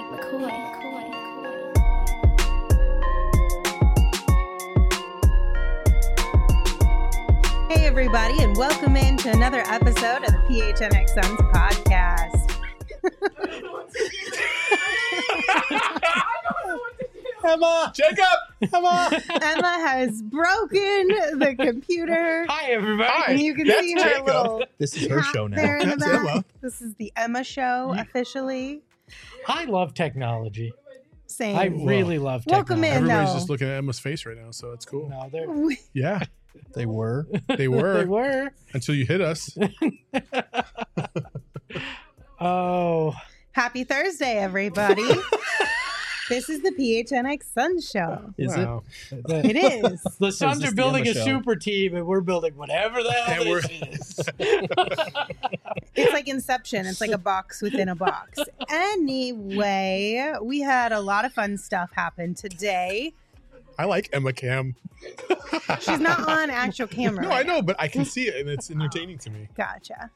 Hey, everybody, and welcome into another episode of the PHNX Suns podcast. Emma! Jacob! Emma! Emma has broken the computer. Hi, everybody. And you can That's see her Jacob. little This is her hat show now. there in the That's back. Emma. This is the Emma show, officially. I love technology. Same. I really love Welcome technology. in. Everybody's No. just looking at Emma's face right now, so it's cool. No, they're, Yeah, They were. they were they were. until you hit us. Oh, Happy Thursday, everybody. This is the PHNX Suns show. Is Wow. It is. the Suns this are the building Emma a show? super team, and we're building whatever the hell And this is. It's like Inception. It's like a box within a box. Anyway, we had a lot of fun stuff happen today. I like Emma Cam. She's not on actual camera. No, right I know, but I can see it, and it's entertaining to me. now. Gotcha.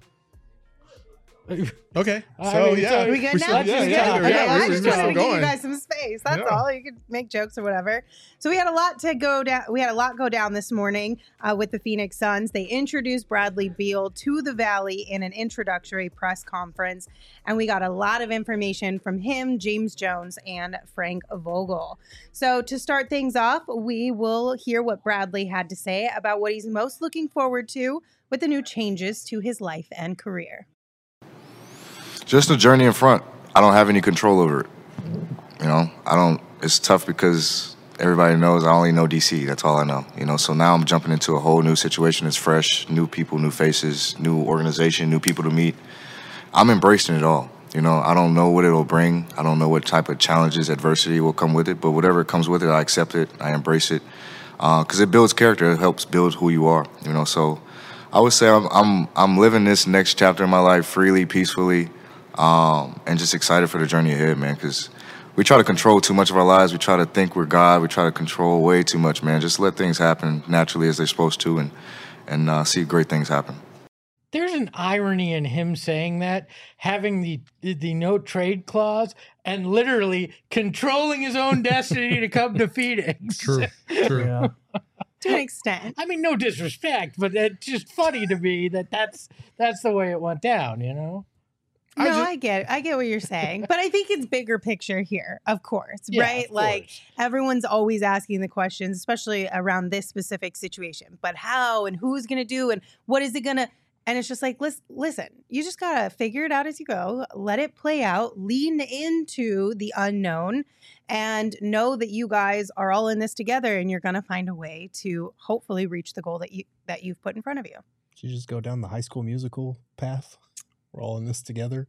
Okay, I so mean, yeah, so- Are we good we're now? still- Let's yeah, just yeah, go. yeah, Okay, yeah, I we're just still wanted to give you going. guys some space. That's Yeah. all. You could make jokes or whatever. So we had a lot to go down. We had a lot go down this morning with the Phoenix Suns. They introduced Bradley Beal to the Valley in an introductory press conference, and we got a lot of information from him, James Jones, and Frank Vogel. So to start things off, we will hear what Bradley had to say about what he's most looking forward to with the new changes to his life and career. Just the journey in front. I don't have any control over it. You know, it's tough because everybody knows I only know DC. That's all I know. You know, so now I'm jumping into a whole new situation. It's fresh, new people, new faces, new organization, new people to meet. I'm embracing it all. You know, I don't know what it'll bring. I don't know what type of challenges, adversity will come with it, but whatever comes with it, I accept it. I embrace it. Because it builds character. It helps build who you are. You know, so I would say I'm living this next chapter in my life freely, peacefully, and just excited for the journey ahead, man, because we try to control too much of our lives. We try to think we're God. We try to control way too much, man. Just let things happen naturally as they're supposed to and see great things happen. There's an irony in him saying that, having the no trade clause, and literally controlling his own destiny to come to Phoenix. True. Yeah. To an extent. I mean, no disrespect, but it's just funny to me that's the way it went down, you know? No, I get what you're saying, but I think it's bigger picture here, of course, Yeah, right? of Like course. everyone's always asking the questions, especially around this specific situation. But how and who's going to do and what is it going to? And it's just like, listen, you just got to figure it out as you go. Let it play out. Lean into the unknown and know that you guys are all in this together, and you're going to find a way to hopefully reach the goal that you've put in front of you. Did you just go down the High School Musical path? We're all in this together.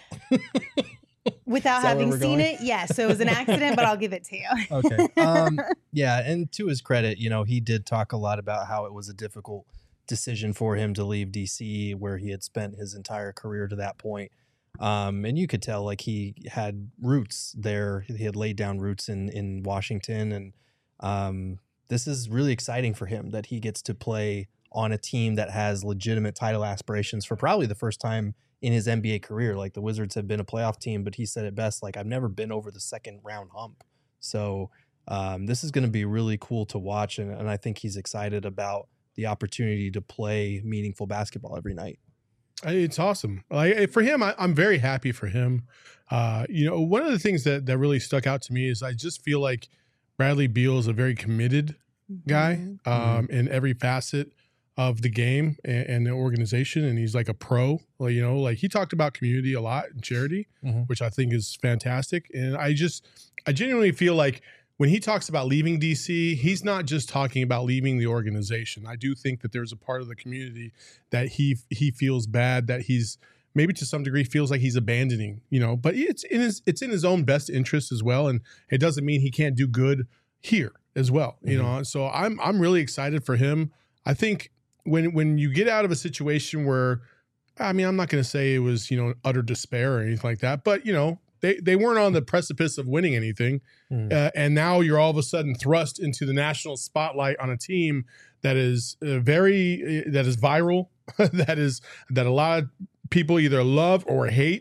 Without Is that having where we're seen going? it, yes, it was an accident, but I'll give it to you. Okay. Yeah, and to his credit, you know, he did talk a lot about how it was a difficult decision for him to leave DC, where he had spent his entire career to that point. And you could tell, like, he had roots there. He had laid down roots in Washington, and this is really exciting for him that he gets to play on a team that has legitimate title aspirations for probably the first time in his NBA career. Like, the Wizards have been a playoff team, but he said it best, like, I've never been over the second round hump. So this is going to be really cool to watch, and I think he's excited about the opportunity to play meaningful basketball every night. It's awesome. Like, for him, I'm very happy for him. You know, one of the things that really stuck out to me is I just feel like Bradley Beal is a very committed guy in every facet of the game and the organization, and he's like a pro. Like, you know, like he talked about community a lot and charity, which I think is fantastic. And I genuinely feel like when he talks about leaving DC, he's not just talking about leaving the organization. I do think that there's a part of the community that he feels bad, that he's maybe to some degree feels like he's abandoning, you know, but it's in his own best interest as well. And it doesn't mean he can't do good here as well, you know? So I'm really excited for him. I think when you get out of a situation where, I mean, I'm not going to say it was, you know, utter despair or anything like that, but, you know, they weren't on the precipice of winning anything. And now you're all of a sudden thrust into the national spotlight on a team that is that is viral, that a lot of people either love or hate.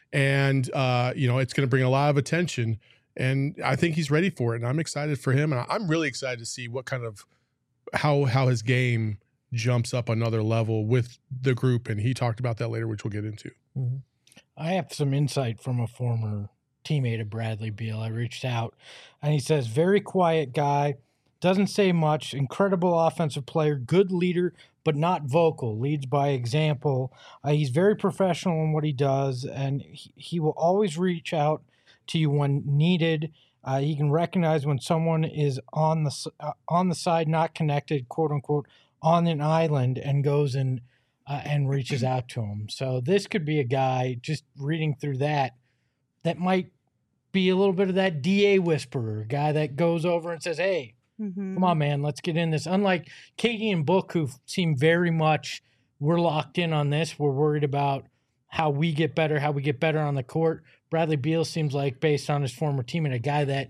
and it's going to bring a lot of attention. And I think he's ready for it, and I'm excited for him. And I'm really excited to see what kind of how his game jumps up another level with the group. And he talked about that later, which we'll get into. Mm-hmm. I have some insight from a former teammate of Bradley Beal. I reached out, and he says, very quiet guy, doesn't say much, incredible offensive player, good leader, but not vocal, leads by example. He's very professional in what he does, and he will always reach out to you when needed. He can recognize when someone is on the side, not connected, quote unquote, on an island, and goes and reaches out to him. So this could be a guy, just reading through that might be a little bit of that DA whisperer, guy that goes over and says, hey, come on, man, let's get in this. Unlike KD and Book, who seem very much, we're locked in on this. We're worried about how we get better on the court. Bradley Beal seems like, based on his former teammate, a guy that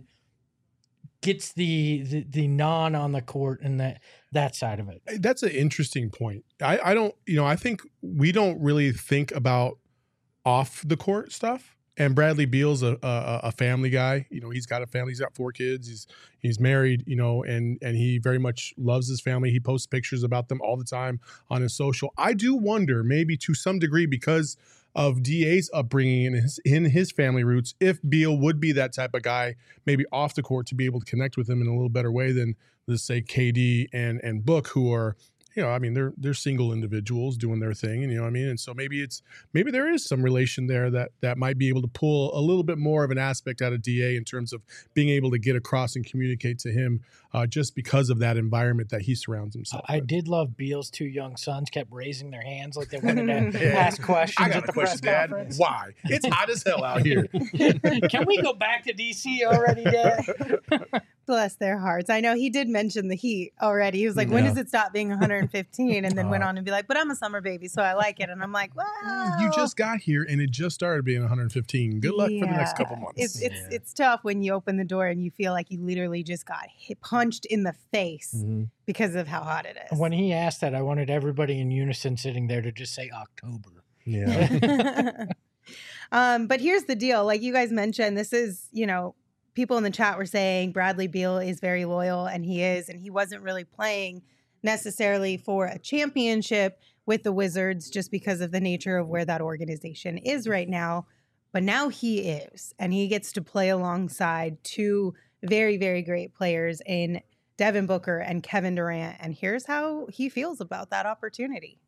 gets the non on the court and that side of it. That's an interesting point. I don't, I think we don't really think about off the court stuff. And Bradley Beal's a family guy. He's got a family. He's got 4 kids. He's married, and he very much loves his family. He posts pictures about them all the time on his social. I do wonder, maybe to some degree, because of DA's upbringing and in his family roots, if Beal would be that type of guy, maybe off the court, to be able to connect with him in a little better way than, let's say, KD and Book, who are, they're single individuals doing their thing, and and so maybe there is some relation there that might be able to pull a little bit more of an aspect out of DA in terms of being able to get across and communicate to him, just because of that environment that he surrounds himself with. I did love Beal's 2 young sons kept raising their hands like they wanted to ask questions at the press conference. Why? It's hot as hell out here. Can we go back to DC already, Dad? Bless their hearts. I know he did mention the heat already. He was like, when does it stop being 115? And then went on and be like, but I'm a summer baby, so I like it. And I'm like, wow. You just got here and it just started being 115. Good luck for the next couple months. It's tough when you open the door and you feel like you literally just got punched in the face because of how hot it is. When he asked that, I wanted everybody in unison sitting there to just say October. Yeah. But here's the deal. Like you guys mentioned, this is, people in the chat were saying Bradley Beal is very loyal, and he is, and he wasn't really playing necessarily for a championship with the Wizards just because of the nature of where that organization is right now. But now he is, and he gets to play alongside 2 very, very great players in Devin Booker and Kevin Durant. And here's how he feels about that opportunity.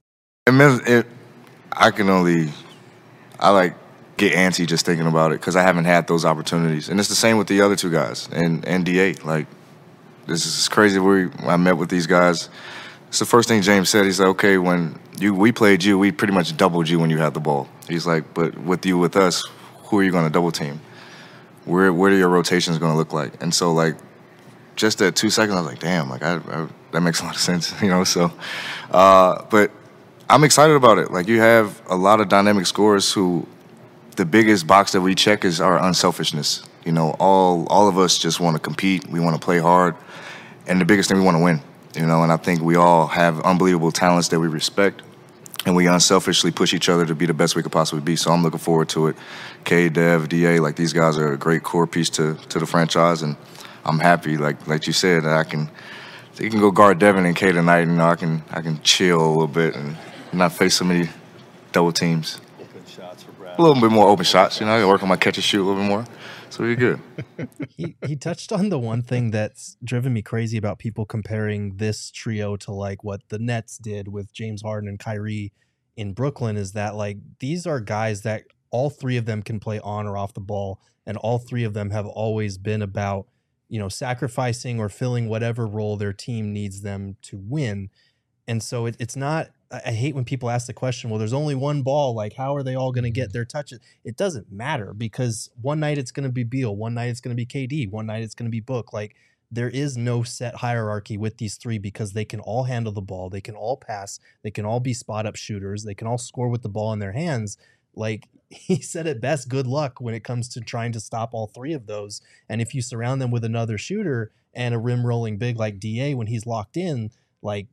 I get antsy just thinking about it because I haven't had those opportunities. And it's the same with the other 2 guys and DA. Like, this is crazy. I met with these guys. It's the first thing James said. He's like, okay, when we played you, we pretty much doubled you when you had the ball. He's like, but with us, who are you going to double team? Where are your rotations going to look like? And so, like, just that 2 seconds, I was like, damn, like that makes a lot of sense, So, but I'm excited about it. Like, you have a lot of dynamic scorers who, the biggest box that we check is our unselfishness. All of us just want to compete. We want to play hard. And the biggest thing, we want to win. And I think we all have unbelievable talents that we respect. And we unselfishly push each other to be the best we could possibly be. So I'm looking forward to it. K, Dev, DA, like, these guys are a great core piece to the franchise. And I'm happy, like you said, that you can go guard Devin and K tonight. I can chill a little bit and not face so many double teams. A little bit more open shots, I can work on my catch and shoot a little bit more. So we're good. He touched on the one thing that's driven me crazy about people comparing this trio to like what the Nets did with James Harden and Kyrie in Brooklyn, is that like these are guys that all 3 of them can play on or off the ball, and all 3 of them have always been about, sacrificing or filling whatever role their team needs them to win. And so it's not, I hate when people ask the question, well, there's only one ball. Like, how are they all going to get their touches? It doesn't matter, because one night it's going to be Beal, one night it's going to be KD, one night it's going to be Book. Like, there is no set hierarchy with these 3 because they can all handle the ball. They can all pass. They can all be spot up shooters. They can all score with the ball in their hands. Like, he said it best, good luck when it comes to trying to stop all 3 of those. And if you surround them with another shooter and a rim rolling big like DA when he's locked in, like,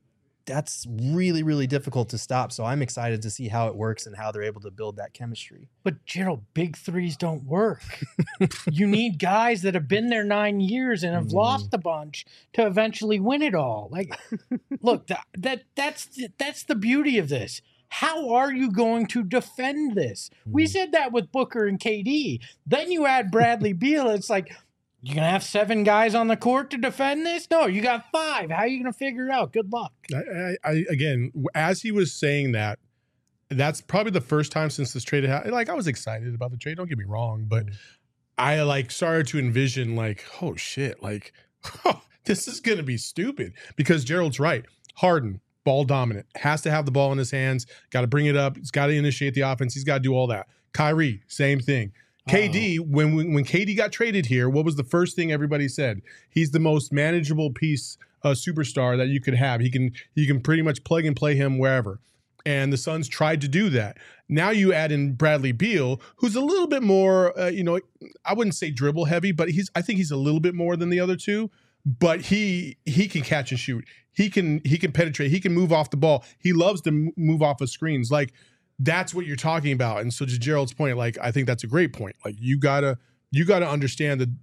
that's really, really difficult to stop. So I'm excited to see how it works and how they're able to build that chemistry. But Gerald, big threes don't work. You need guys that have been there 9 years and have lost a bunch to eventually win it all. Like, look, that's the beauty of this. How are you going to defend this? We said that with Booker and KD. Then you add Bradley Beal. It's like, you're going to have 7 guys on the court to defend this? No, you got 5. How are you going to figure it out? Good luck. I again, as he was saying that, that's probably the first time since this trade happened. Like, I was excited about the trade. Don't get me wrong, but I like started to envision like, oh shit, like this is going to be stupid because Gerald's right. Harden, ball dominant, has to have the ball in his hands, got to bring it up. He's got to initiate the offense. He's got to do all that. Kyrie, same thing. KD, when KD got traded here, what was the first thing everybody said? He's the most manageable piece, superstar that you could have. He can pretty much plug and play him wherever. And the Suns tried to do that. Now you add in Bradley Beal, who's a little bit more, I wouldn't say dribble heavy, but I think he's a little bit more than the other two. But he can catch and shoot. He can penetrate. He can move off the ball. He loves to move off of screens. Like, that's what you're talking about. And so to Gerald's point, like, I think that's a great point. Like, you gotta understand that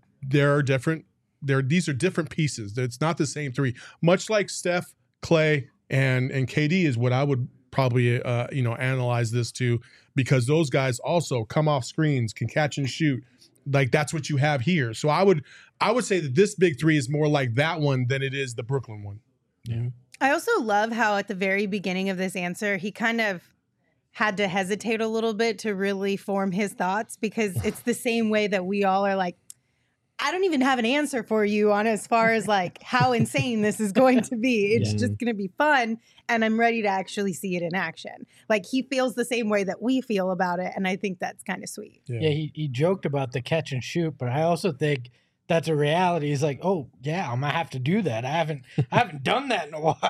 these are different pieces. It's not the same 3. Much like Steph, Clay, and KD is what I would probably analyze this to, because those guys also come off screens, can catch and shoot. Like, that's what you have here. So I would say that this big 3 is more like that one than it is the Brooklyn one. Yeah. I also love how at the very beginning of this answer, he kind of had to hesitate a little bit to really form his thoughts, because it's the same way that we all are like, I don't even have an answer for you on as far as like how insane this is going to be. It's just going to be fun. And I'm ready to actually see it in action. Like, he feels the same way that we feel about it. And I think that's kind of sweet. Yeah, he joked about the catch and shoot, but I also think that's a reality. He's like, oh yeah, I'm gonna have to do that. I haven't done that in a while.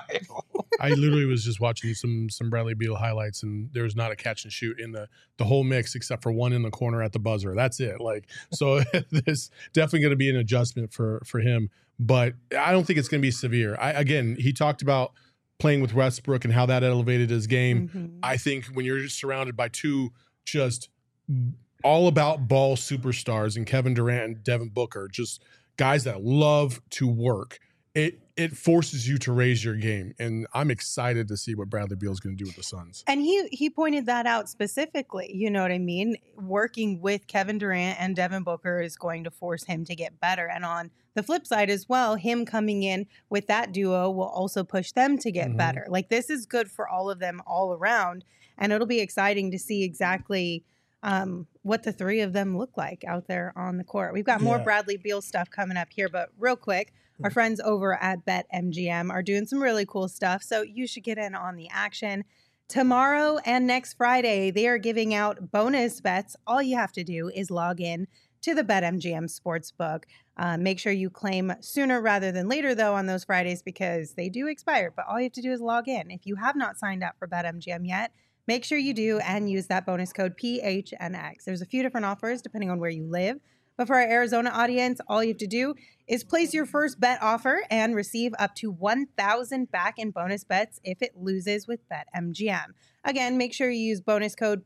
I literally was just watching some Bradley Beal highlights, and there's not a catch and shoot in the whole mix except for one in the corner at the buzzer. That's it. Like, so there's definitely going to be an adjustment for him, but I don't think it's going to be severe. Again, he talked about playing with Westbrook and how that elevated his game. Mm-hmm. I think when you're surrounded by 2 just all about ball superstars and Kevin Durant and Devin Booker, just guys that love to work, it forces you to raise your game. And I'm excited to see what Bradley Beal is going to do with the Suns. And he pointed that out specifically. You know what I mean? Working with Kevin Durant and Devin Booker is going to force him to get better. And on the flip side as well, him coming in with that duo will also push them to get better. Like, this is good for all of them all around. And it'll be exciting to see exactly what the 3 of them look like out there on the court. We've got more Bradley Beal stuff coming up here, but real quick, our friends over at BetMGM are doing some really cool stuff, so you should get in on the action. Tomorrow and next Friday, they are giving out bonus bets. All you have to do is log in to the BetMGM Sportsbook. Make sure you claim sooner rather than later, though, on those Fridays, because they do expire, but all you have to do is log in. If you have not signed up for BetMGM yet, make sure you do and use that bonus code PHNX. There's a few different offers depending on where you live. But for our Arizona audience, all you have to do is place your first bet offer and receive up to $1,000 back in bonus bets if it loses with BetMGM. Again, make sure you use bonus code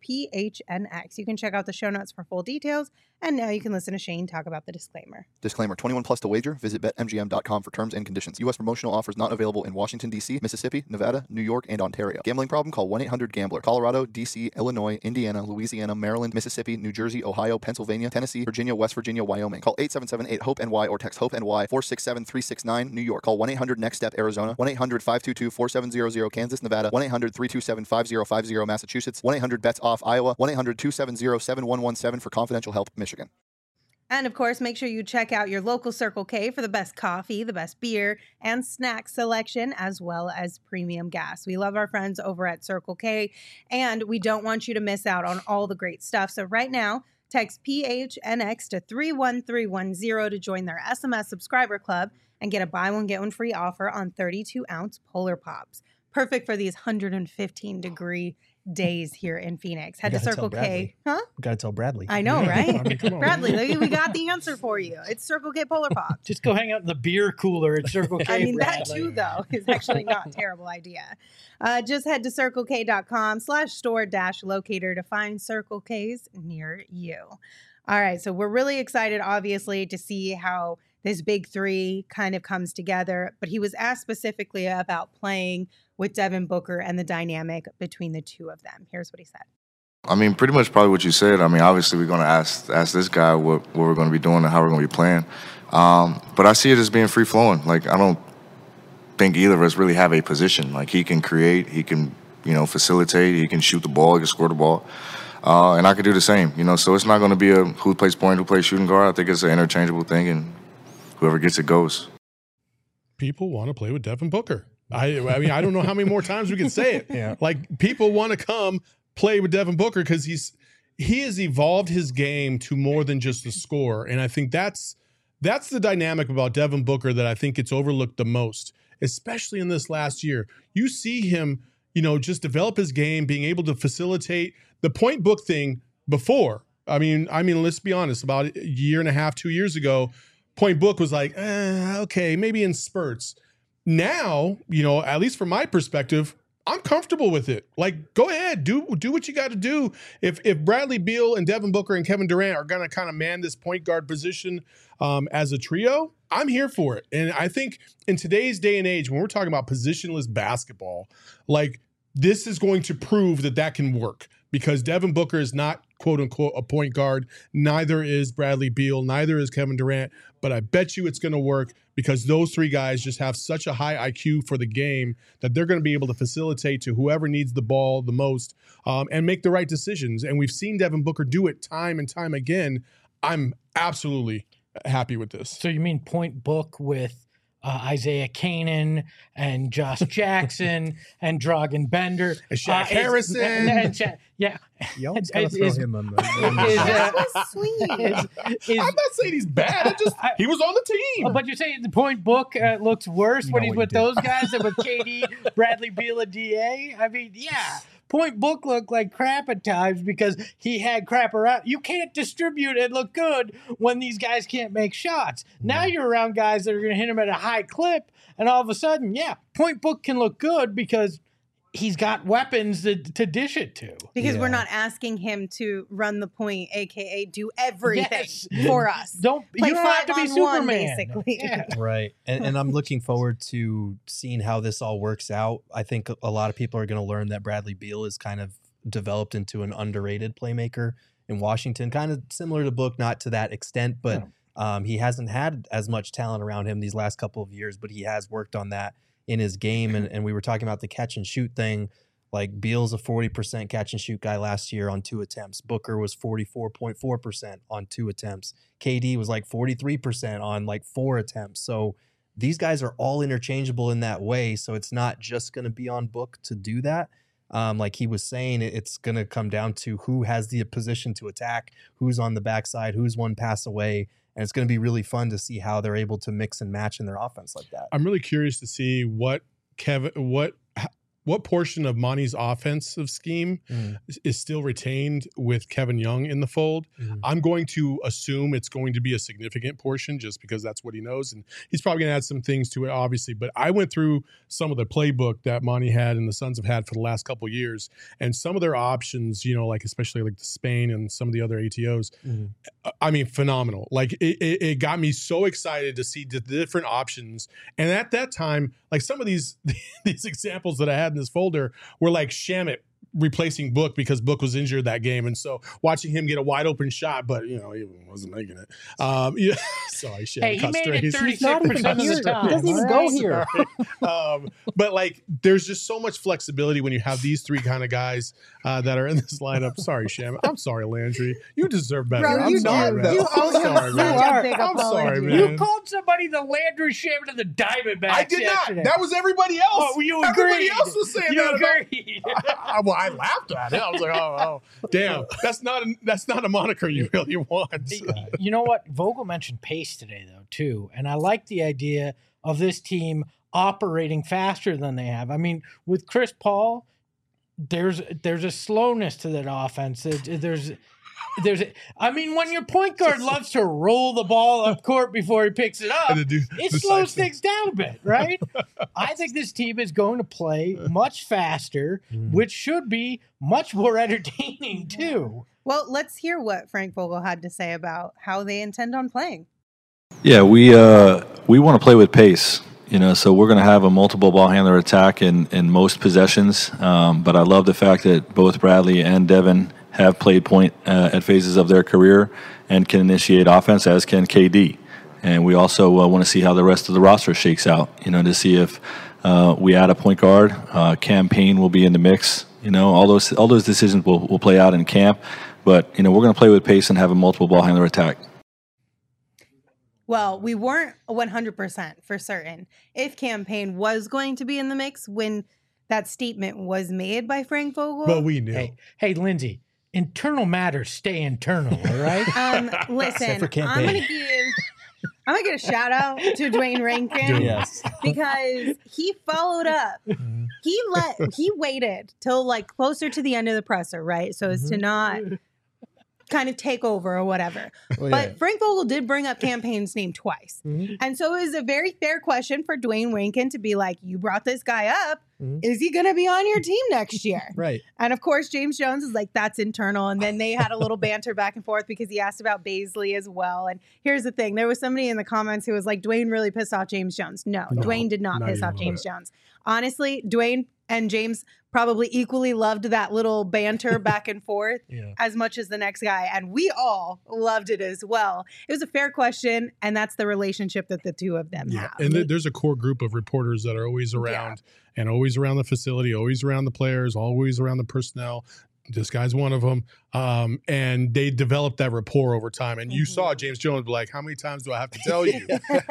PHNX. You can check out the show notes for full details. And now you can listen to Shane talk about the disclaimer. Disclaimer, 21 plus to wager. Visit BetMGM.com for terms and conditions. U.S. promotional offers not available in Washington, D.C., Mississippi, Nevada, New York, and Ontario. Gambling problem? Call 1-800-GAMBLER. Colorado, D.C., Illinois, Indiana, Louisiana, Maryland, Mississippi, New Jersey, Ohio, Pennsylvania, Tennessee, Virginia, West Virginia, Wyoming. Call 877-8-HOPE-NY or text HOPE-NY 467-369, New York. Call 1-800-NEXT-STEP, Arizona. 1-800-522-4700, Kansas, Nevada. 1-800-327-5050, Massachusetts. 1-800-BETS-OFF, Iowa. 1-800-270-7117 for confidential help, Michigan. And of course, make sure you check out your local Circle K for the best coffee, the best beer, and snack selection, as well as premium gas. We love our friends over at Circle K, and we don't want you to miss out on all the great stuff. So right now, text PHNX to 31310 to join their SMS subscriber club and get a buy one, get one free offer on 32-ounce Polar Pops. Perfect for these 115-degree days here in Phoenix. Head to gotta tell Circle K. Bradley. Huh? We got to tell Bradley. I know, Yeah, right? I mean, come on. Bradley, we got the answer for you. It's Circle K Polar Pop. Just go hang out in the beer cooler at Circle K. I mean, that Bradley. too, though, is actually not a terrible idea. Just head to circlek.com/store-locator to find Circle Ks near you. All right, so we're really excited, obviously, to see how this big three kind of comes together. But he was asked specifically about playing with Devin Booker and the dynamic between the two of them. Here's what he said. I mean, pretty much probably what you said. I mean, obviously we're going to ask this guy what we're going to be doing and how we're going to be playing. But I see it as being free-flowing. Like, I don't think either of us really have a position. Like, he can create, he can, facilitate, he can shoot the ball, he can score the ball. And I could do the same, So it's not going to be a who plays point, who plays shooting guard. I think it's an interchangeable thing, and whoever gets it goes. People want to play with Devin Booker. I mean, I don't know how many more times we can say it. Yeah. Like, people want to come play with Devin Booker because he has evolved his game to more than just a scorer. And I think that's the dynamic about Devin Booker that I think gets overlooked the most, especially in this last year. You see him, just develop his game, being able to facilitate the point book thing before. I mean, let's be honest, about a year and a half, 2 years ago, point book was like, okay, maybe in spurts. Now, at least from my perspective, I'm comfortable with it. Like, go ahead, do what you got to do. If Bradley Beal and Devin Booker and Kevin Durant are going to kind of man this point guard position as a trio, I'm here for it. And I think in today's day and age, when we're talking about positionless basketball, like, this is going to prove that can work, because Devin Booker is not, quote unquote, a point guard. Neither is Bradley Beal. Neither is Kevin Durant. But I bet you it's going to work because those three guys just have such a high IQ for the game that they're going to be able to facilitate to whoever needs the ball the most and make the right decisions. And we've seen Devin Booker do it time and time again. I'm absolutely happy with this. So you mean point book with Isaiah Kanan and Josh Jackson and Dragan Bender And Shaq Harrison. Yeah. You always gotta throw him on the That was sweet. I'm not saying he's bad. He was on the team. But you're saying the point book looks worse when No, he's he with didn't. those guys than with KD, Bradley Beal, and DA? I mean, yeah. Point book looked like crap at times because he had crap around. You can't distribute and look good when these guys can't make shots. Now you're around guys that are going to hit him at a high clip, and all of a sudden, yeah, point book can look good because he's got weapons to dish it to. Because we're Yeah. not asking him to run the point, aka do everything Yes. for us. You Play don't have to be 5-on-1, Superman. basically. Yeah. Right. And I'm looking forward to seeing how this all works out. I think a lot of people are going to learn that Bradley Beal is kind of developed into an underrated playmaker in Washington, kind of similar to Book, not to that extent, but he hasn't had as much talent around him these last couple of years, but he has worked on that in his game. And we were talking about the catch and shoot thing. Like, Beal's a 40% catch and shoot guy last year on 2 attempts. Booker was 44.4% on 2 attempts. KD was like 43% on like 4 attempts. So these guys are all interchangeable in that way. So it's not just going to be on Book to do that. Like he was saying, it's going to come down to who has the position to attack, who's on the backside, who's one pass away. And it's going to be really fun to see how they're able to mix and match in their offense like that. I'm really curious to see what portion of Monty's offensive scheme is still retained with Kevin Young in the fold. I'm going to assume it's going to be a significant portion just because that's what he knows. And he's probably going to add some things to it, obviously. But I went through some of the playbook that Monty had and the Suns have had for the last couple of years. And some of their options, like especially like the Spain and some of the other ATOs, I mean, phenomenal. Like it got me so excited to see the different options. And at that time, like some of these examples that I had in this folder were like Shamet replacing Book because Book was injured that game, and so watching him get a wide open shot, but he wasn't making it. Yeah, sorry, Shamet. Hey, he made it 36% of the time. He doesn't even go here. But like, there's just so much flexibility when you have these three kind of guys that are in this lineup. Sorry, Shamet. I'm sorry, Landry. You deserve better. Bro, I'm you sorry, do. man. You I'm owe him sorry, such man. a big I'm sorry, apology. man. You called somebody the Landry Shamet of the Diamondbacks. I did yesterday. not. That was everybody else. Oh, you Everybody agreed. else was saying You that about. agreed. Well, I laughed at it. I was like, oh, damn. That's not a moniker you really want. You know what? Vogel mentioned pace today, though, too. And I like the idea of this team operating faster than they have. I mean, with Chris Paul, there's a slowness to that offense. I mean, when your point guard loves to roll the ball up court before he picks it up, it slows things down a bit, right? I think this team is going to play much faster, which should be much more entertaining too. Well, let's hear what Frank Vogel had to say about how they intend on playing. Yeah, we want to play with pace. So we're going to have a multiple ball handler attack in most possessions. But I love the fact that both Bradley and Devin have played point at phases of their career and can initiate offense, as can KD. And we also want to see how the rest of the roster shakes out, to see if we add a point guard. Cam Payne will be in the mix. All those decisions will play out in camp. But, we're going to play with pace and have a multiple ball handler attack. Well, we weren't 100% for certain if Cam Payne was going to be in the mix when that statement was made by Frank Vogel. But we knew. Hey, Lindsay, internal matters stay internal, all right? Listen, I'm gonna give a shout out to Dwayne Rankin. Yes. Because he followed up. He waited till like closer to the end of the presser, right? So as to not kind of take over or whatever. But Frank Vogel did bring up Cam Payne's name twice. And so it was a very fair question for Dwayne Rankin to be like, you brought this guy up. Is he going to be on your team next year? Right. And of course, James Jones is like, that's internal. And then they had a little banter back and forth because he asked about Bazley as well. And here's the thing. There was somebody in the comments who was like, Dwayne really pissed off James Jones. No, Dwayne did not piss off James Jones. Honestly, Dwayne and James probably equally loved that little banter back and forth as much as the next guy. And we all loved it as well. It was a fair question. And that's the relationship that the two of them have. And there's a core group of reporters that are always around and always around the facility, always around the players, always around the personnel. This guy's one of them. And they developed that rapport over time. And you saw James Jones be like, how many times do I have to tell you?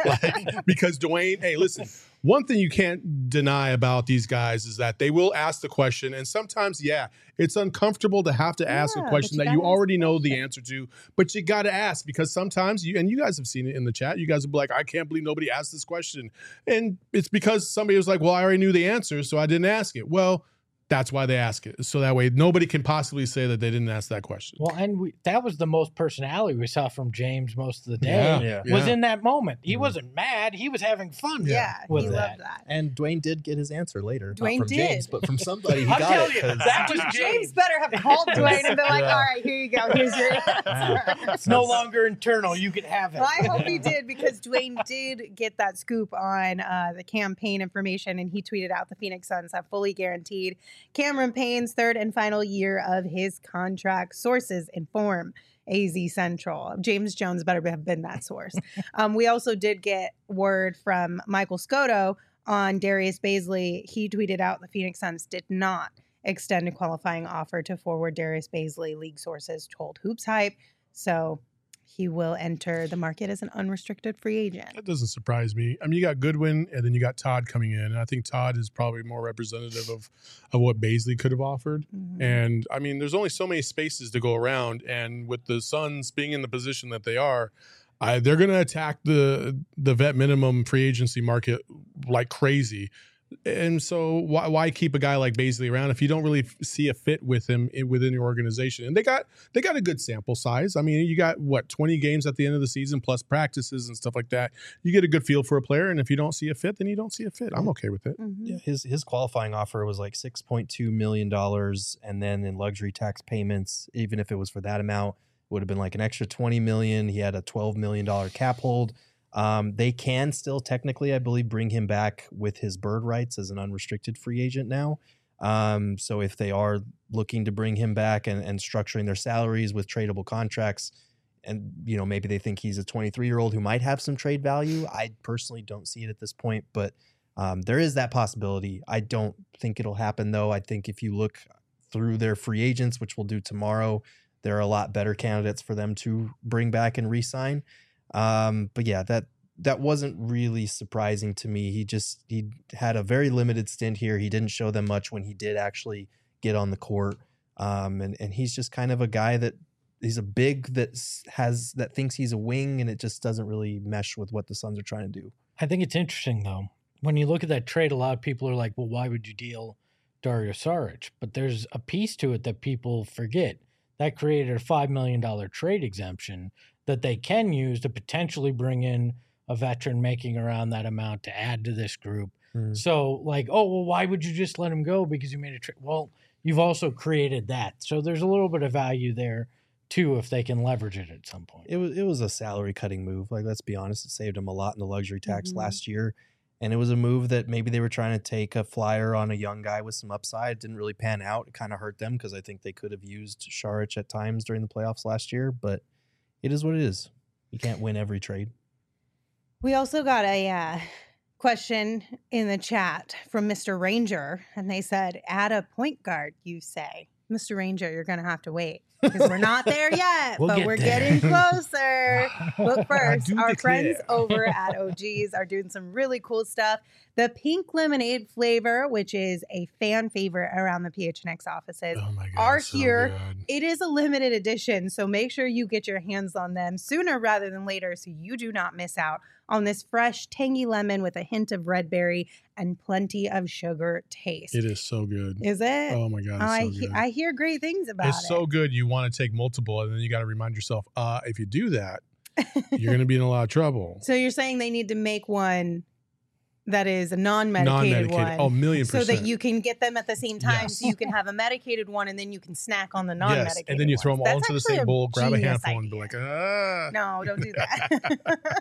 Because Dwayne, hey, listen, one thing you can't deny about these guys is that they will ask the question. And sometimes, it's uncomfortable to have to ask a question that you already know the answer to, but you got to ask because sometimes and you guys have seen it in the chat. You guys will be like, I can't believe nobody asked this question. And it's because somebody was like, well, I already knew the answer, so I didn't ask it. Well, that's why they ask it. So that way nobody can possibly say that they didn't ask that question. Well, and that was the most personality we saw from James most of the day was in that moment. He wasn't mad. He was having fun. He loved that. And Dwayne did get his answer later. Dwayne not from did. James, but from somebody he I'll got tell it. you, that was James better have called Dwayne and been like, all right, here you go. Here's your answer. It's no longer internal. You can have it. Well, I hope he did because Dwayne did get that scoop on the campaign information and he tweeted out the Phoenix Suns have fully guaranteed Cameron Payne's third and final year of his contract. Sources inform AZ Central. James Jones better have been that source. We also did get word from Michael Scotto on Darius Bazley. He tweeted out the Phoenix Suns did not extend a qualifying offer to forward Darius Bazley, league sources told Hoops Hype. So he will enter the market as an unrestricted free agent. That doesn't surprise me. I mean, you got Goodwin, and then you got Todd coming in. And I think Todd is probably more representative of what Bazley could have offered. And, I mean, there's only so many spaces to go around. And with the Suns being in the position that they are, they're going to attack the vet minimum free agency market like crazy. And so why keep a guy like Bazley around if you don't really see a fit with him within your organization? And they got a good sample size. I mean, you got 20 games at the end of the season plus practices and stuff like that. You get a good feel for a player, and if you don't see a fit, then you don't see a fit. I'm okay with it. Yeah, his qualifying offer was like $6.2 million, and then in luxury tax payments, even if it was for that amount, it would have been like an extra $20 million. He had a $12 million cap hold. They can still technically, I believe, bring him back with his bird rights as an unrestricted free agent now. So if they are looking to bring him back and structuring their salaries with tradable contracts, and maybe they think he's a 23-year-old who might have some trade value. I personally don't see it at this point, but there is that possibility. I don't think it'll happen though. I think if you look through their free agents, which we'll do tomorrow, there are a lot better candidates for them to bring back and re-sign. But yeah, that wasn't really surprising to me. He had a very limited stint here. He didn't show them much when he did actually get on the court. And he's just kind of a guy that he's a big that thinks he's a wing, and it just doesn't really mesh with what the Suns are trying to do. I think it's interesting though. When you look at that trade, a lot of people are like, well, why would you deal Dario Saric, but there's a piece to it that people forget. That created a $5 million trade exemption that they can use to potentially bring in a veteran making around that amount to add to this group. So like, oh, well, why would you just let him go because you made a trade? Well, you've also created that. So there's a little bit of value there too if they can leverage it at some point. It was a salary cutting move. Like, let's be honest, it saved them a lot in the luxury tax last year. And it was a move that maybe they were trying to take a flyer on a young guy with some upside. It didn't really pan out. It kind of hurt them because I think they could have used Saric at times during the playoffs last year. But it is what it is. You can't win every trade. We also got a question in the chat from Mr. Ranger, and they said, add a point guard, you say. Mr. Ranger, you're going to have to wait because we're not there yet, but we're getting closer. But first, our friends over at OG's are doing some really cool stuff. The pink lemonade flavor, which is a fan favorite around the PHNX offices, are here. It is a limited edition, so make sure you get your hands on them sooner rather than later so you do not miss out on this fresh, tangy lemon with a hint of red berry and plenty of sugar taste. It is so good. Is it? Oh my God, it's so good. I hear great things about it. It's so good. You want to take multiple, and then you got to remind yourself, if you do that, you're going to be in a lot of trouble. So you're saying they need to make one that is a non-medicated one. Oh, 1,000,000%. So that you can get them at the same time, so you can have a medicated one, and then you can snack on the non-medicated Yes, and then you throw them all ones. into the That's same bowl, grab a genius handful, and be like, No, don't do that.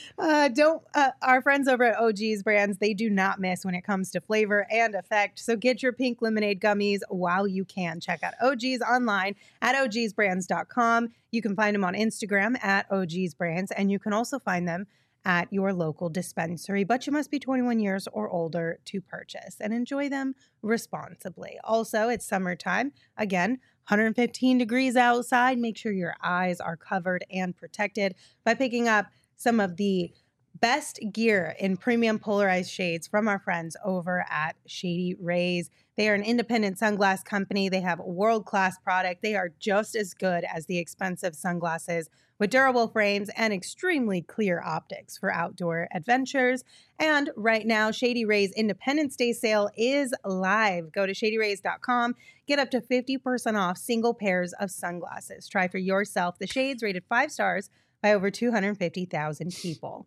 Our friends over at OG's Brands, they do not miss when it comes to flavor and effect. So get your pink lemonade gummies while you can. Check out OG's online at ogsbrands.com. You can find them on Instagram at OG's Brands, and you can also find them at your local dispensary, but you must be 21 years or older to purchase and enjoy them responsibly. Also, it's summertime. Again, 115 degrees outside. Make sure your eyes are covered and protected by picking up some of the best gear in premium polarized shades from our friends over at Shady Rays. They are an independent sunglass company. They have world-class product. They are just as good as the expensive sunglasses with durable frames and extremely clear optics for outdoor adventures. And right now, Shady Rays Independence Day sale is live. Go to shadyrays.com. Get up to 50% off single pairs of sunglasses. Try for yourself the shades rated 5 stars by over 250,000 people.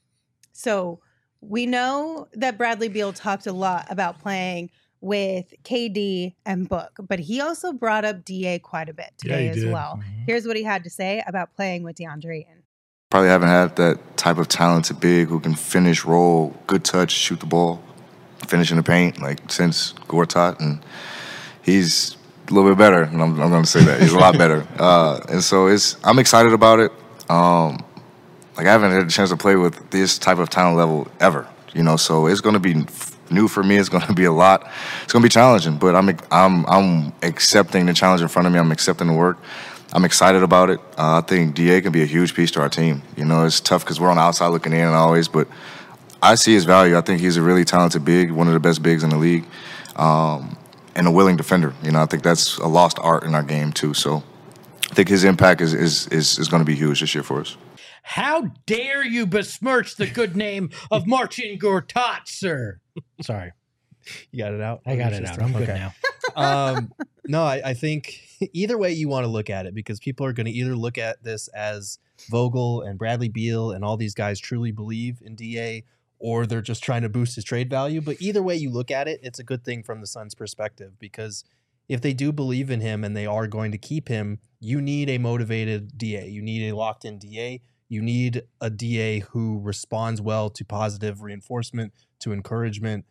So we know that Bradley Beal talked a lot about playing with KD and Book, but he also brought up DA quite a bit today as well. Here's what he had to say about playing with DeAndre Ayton. Probably haven't had that type of talented big who can finish, roll, good touch, shoot the ball, finish in the paint, like since Gortat, and he's a little bit better. And I'm going to say that he's a lot better. And so I'm excited about it. Like I haven't had a chance to play with this type of talent level ever, so it's going to be new for me. It's going to be a lot. It's going to be challenging, but I'm accepting the challenge in front of me. I'm accepting the work. I'm excited about it. I think DA can be a huge piece to our team. It's tough because we're on the outside looking in and always, but I see his value. I think he's a really talented big, one of the best bigs in the league, and a willing defender. I think that's a lost art in our game too. So I think his impact is going to be huge this year for us. How dare you besmirch the good name of Marcin Gortat, sir? Sorry. You got it out? I got it out. I'm good now. No, I think either way you want to look at it, because people are going to either look at this as Vogel and Bradley Beal and all these guys truly believe in DA, or they're just trying to boost his trade value. But either way you look at it, it's a good thing from the Suns' perspective, because if they do believe in him and they are going to keep him, you need a motivated DA. You need a locked-in DA. You need a DA who responds well to positive reinforcement, to encouragement.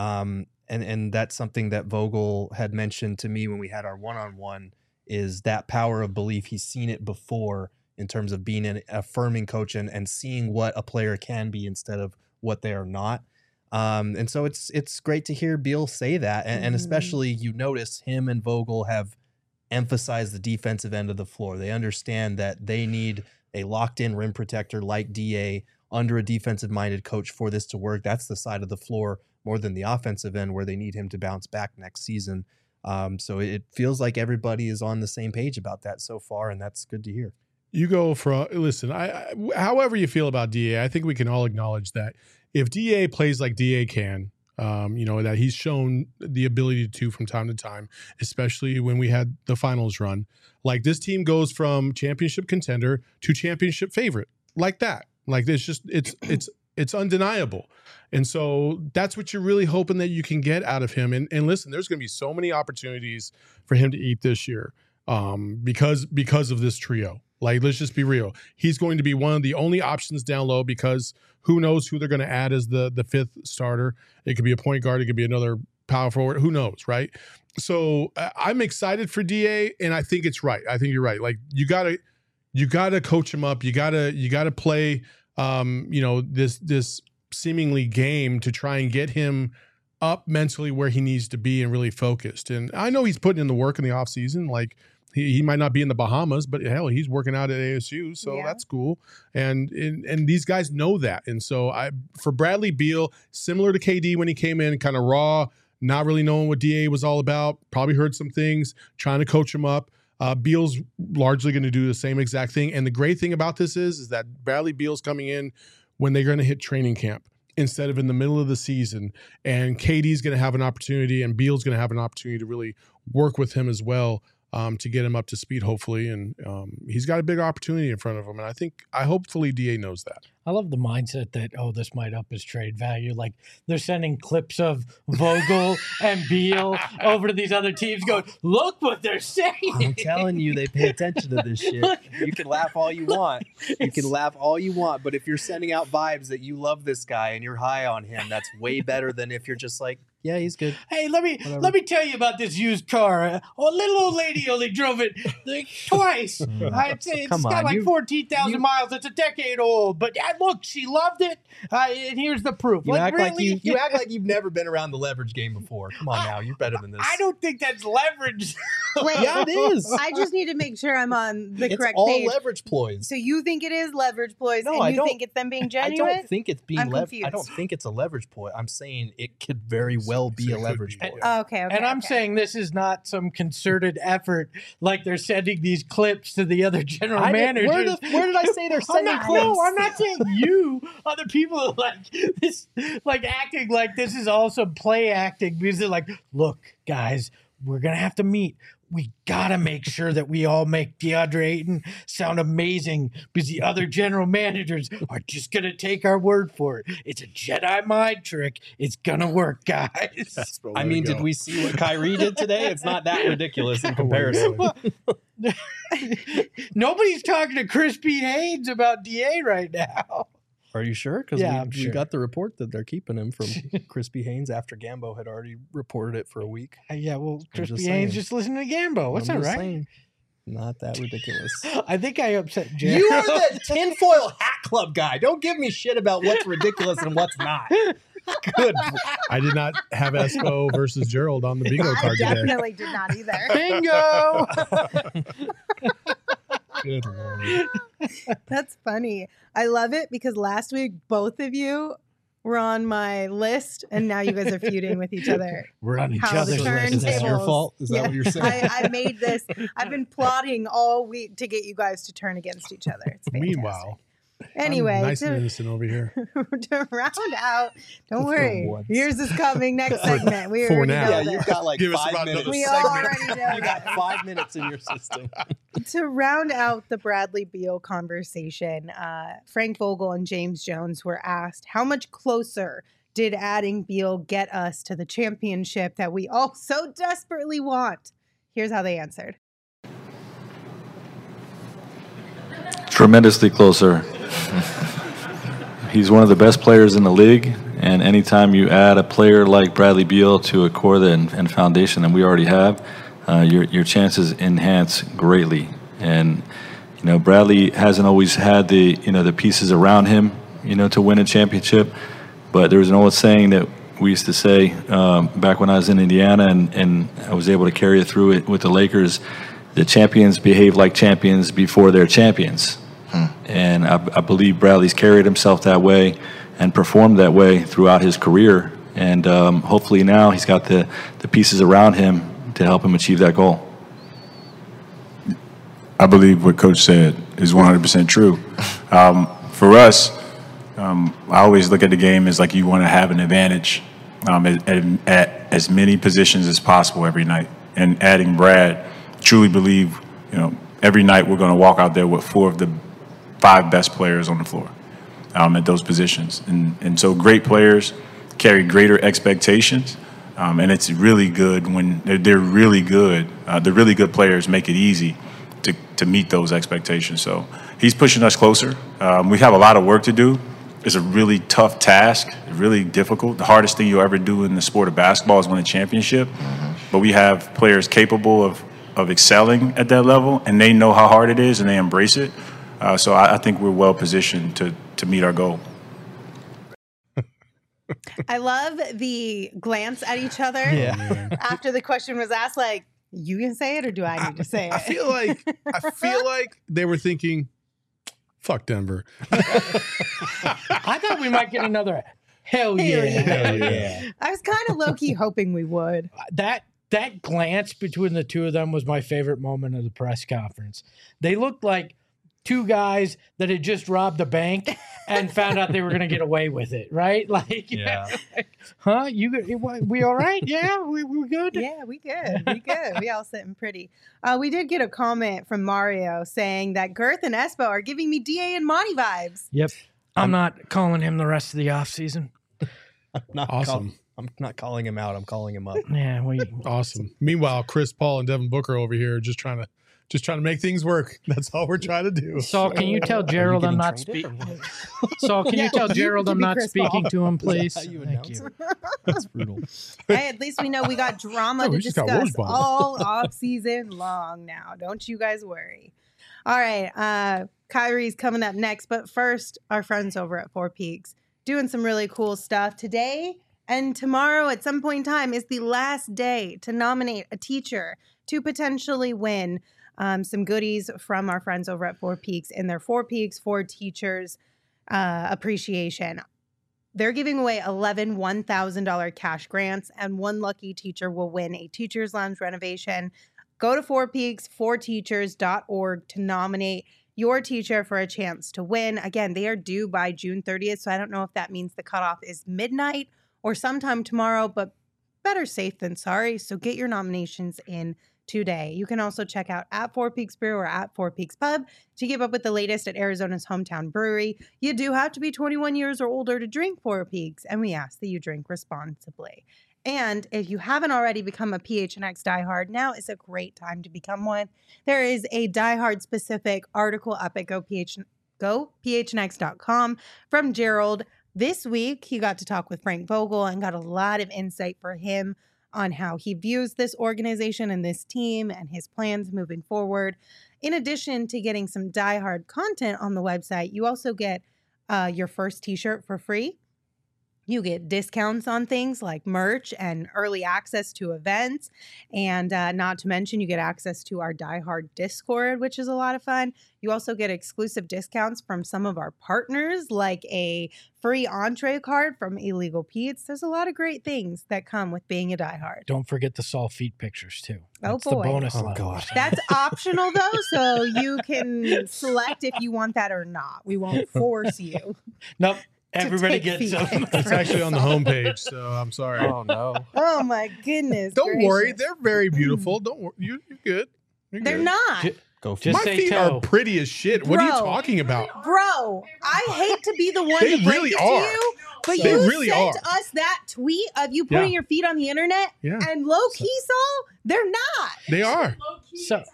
And that's something that Vogel had mentioned to me when we had our one-on-one, is that power of belief. He's seen it before in terms of being an affirming coach and seeing what a player can be instead of what they are not. And so it's great to hear Beal say that. And especially you notice him and Vogel have emphasized the defensive end of the floor. They understand that they need a locked-in rim protector like DA under a defensive-minded coach for this to work. That's the side of the floor more than the offensive end where they need him to bounce back next season. So it feels like everybody is on the same page about that so far, and that's good to hear. You go for listen. However you feel about DA, I think we can all acknowledge that if DA plays like DA can, that he's shown the ability to from time to time, especially when we had the finals run. Like, this team goes from championship contender to championship favorite like that. Like, it's undeniable. And so that's what you're really hoping that you can get out of him. And listen, there's going to be so many opportunities for him to eat this year because of this trio. Like, let's just be real. He's going to be one of the only options down low because who knows who they're going to add as the fifth starter. It could be a point guard. It could be another power forward. Who knows, right? So I'm excited for DA, and I think it's right. I think you're right. Like, you gotta coach him up. You gotta play this seemingly game to try and get him up mentally where he needs to be and really focused. And I know he's putting in the work in the offseason. Like, he might not be in the Bahamas, but hell, he's working out at ASU, so that's cool. And these guys know that. And so for Bradley Beal, similar to KD when he came in, kind of raw, not really knowing what DA was all about, probably heard some things, trying to coach him up. Beal's largely going to do the same exact thing. And the great thing about this is that Bradley Beal's coming in when they're going to hit training camp instead of in the middle of the season. And KD's going to have an opportunity, and Beal's going to have an opportunity to really work with him as well to get him up to speed, hopefully. And he's got a big opportunity in front of him. And hopefully DA knows that. I love the mindset that, this might up his trade value. Like, they're sending clips of Vogel and Beal over to these other teams going, look what they're saying. I'm telling you, they pay attention to this shit. You can laugh all you want. But if you're sending out vibes that you love this guy and you're high on him, that's way better than if you're just like, yeah, he's good. Hey, let me tell you about this used car. A little old lady only drove it twice. I'd say it's got like 14,000 miles. It's a decade old, but look, she loved it. And here's the proof. You act like you've never been around the leverage game before. Come on now, you're better than this. I don't think that's leverage. Wait, yeah, it is. I just need to make sure I'm on the correct all page. Leverage ploys. So you think it is leverage ploys, No, and you think it's them being genuine? I don't think it's being confused. I don't think it's a leverage ploy. I'm saying it could very well be a leverage ploy. Okay. And I'm saying this is not some concerted effort like they're sending these clips to the other general managers. Where did I say they're sending clips? No, I'm not saying you. Other people are like this, like acting like this is all some play acting because they're like, look, guys, we're going to have to meet. We got to make sure that we all make DeAndre Ayton sound amazing because the other general managers are just going to take our word for it. It's a Jedi mind trick. It's going to work, guys. I mean, did we see what Kyrie did today? It's not that ridiculous in comparison. Nobody's talking to Crispy Haynes about DA right now. Are you sure? Because we sure. got the report that they're keeping him from Crispy Haynes after Gambo had already reported it for a week. Yeah, well, Crispy Haynes just listening to Gambo. What's that, right? Saying, not that ridiculous. I think I upset Jared. You are the tinfoil hat club guy. Don't give me shit about what's ridiculous and what's not. Good. I did not have Espo versus Gerald on the bingo card today. I definitely did not either. Bingo! Good Lord. That's funny. I love it because last week both of you were on my list, and now you guys are feuding with each other. We're on each How the other's list. Is that your turntables- fault? Is that what you're saying? I made this. I've been plotting all week to get you guys to turn against each other. It's fantastic. Meanwhile, Anyway, I'm nice and innocent over here. to round out, don't worry. once. Yours is coming next segment. We For already now. know Yeah, this. you've got like Give us 5 about minutes. another We segment. already know You got this. 5 minutes in your system. To round out the Bradley Beal conversation, Frank Vogel and James Jones were asked, how much closer did adding Beal get us to the championship that we all so desperately want? Here's how they answered. Tremendously closer. He's one of the best players in the league, and anytime you add a player like Bradley Beal to a core and foundation that we already have, your chances enhance greatly. And Bradley hasn't always had the pieces around him, to win a championship. But there was an old saying that we used to say back when I was in Indiana, and I was able to carry it through it with the Lakers. The champions behave like champions before they're champions. And I believe Bradley's carried himself that way and performed that way throughout his career. And hopefully now he's got the pieces around him to help him achieve that goal. I believe what Coach said is 100% true. For us, I always look at the game as like you want to have an advantage at as many positions as possible every night. And adding Brad, truly believe, every night we're going to walk out there with 4 of the 5 best players on the floor at those positions. And so great players carry greater expectations. And it's really good when they're really good. The really good players make it easy to meet those expectations. So he's pushing us closer. We have a lot of work to do. It's a really tough task, really difficult. The hardest thing you'll ever do in the sport of basketball is win a championship. But we have players capable of excelling at that level, and they know how hard it is, and they embrace it. So I think we're well positioned to meet our goal. I love the glance at each other after the question was asked, like, you can say it or do I need to say it? I feel like they were thinking, fuck Denver. I thought we might get another hell yeah. I was kind of low-key hoping we would. That glance between the two of them was my favorite moment of the press conference. They looked like 2 guys that had just robbed a bank and found out they were going to get away with it, right? Like, huh? We all right? Yeah, we good? Yeah, we good. We good. We all sitting pretty. We did get a comment from Mario saying that Girth and Espo are giving me DA and Monty vibes. Yep. I'm not calling him the rest of the offseason. Awesome. I'm not calling him out. I'm calling him up. Yeah, awesome. Meanwhile, Chris Paul and Devin Booker over here are just trying to make things work. That's all we're trying to do. Saul, can you tell Gerald I'm not speaking? Saul, can you tell Gerald I'm not speaking to him, please? Thank you. That's brutal. Hey, at least we know we got drama to discuss all off season long now. Don't you guys worry. All right, Kyrie's coming up next, but first, our friends over at Four Peaks doing some really cool stuff today. And tomorrow at some point in time is the last day to nominate a teacher to potentially win some goodies from our friends over at Four Peaks in their Four Peaks for Teachers appreciation. They're giving away 11 $1,000 cash grants, and one lucky teacher will win a Teacher's Lounge renovation. Go to fourpeaksforteachers.org to nominate your teacher for a chance to win. Again, they are due by June 30th, so I don't know if that means the cutoff is midnight or sometime tomorrow, but better safe than sorry. So get your nominations in today. You can also check out at Four Peaks Brew or at Four Peaks Pub to keep up with the latest at Arizona's hometown brewery. You do have to be 21 years or older to drink Four Peaks, and we ask that you drink responsibly. And if you haven't already become a PHNX diehard, now is a great time to become one. There is a diehard specific article up at gophnx.com from Gerald. This week, he got to talk with Frank Vogel and got a lot of insight for him on how he views this organization and this team and his plans moving forward. In addition to getting some diehard content on the website, you also get your first t-shirt for free. You get discounts on things like merch and early access to events. And not to mention, you get access to our diehard Discord, which is a lot of fun. You also get exclusive discounts from some of our partners, like a free entree card from Illegal Pete's. There's a lot of great things that come with being a diehard. Don't forget the Saul feet pictures, too. That's the bonus level. God. That's optional, though, so you can select if you want that or not. We won't force you. Nope. Everybody gets them. It's actually on the homepage, so I'm sorry. Oh, no. Oh, my goodness. Don't gracious. worry. They're very beautiful. Don't worry. You're good. They're not. Go for Just My say feet toe. are pretty as shit. What are you Bro. talking about? Bro, I hate to be the one They to break really it to are. you, but They you really sent are. us that tweet of you putting Yeah. your feet on the internet, Yeah. and low-key, Saul, they're not. They are. So,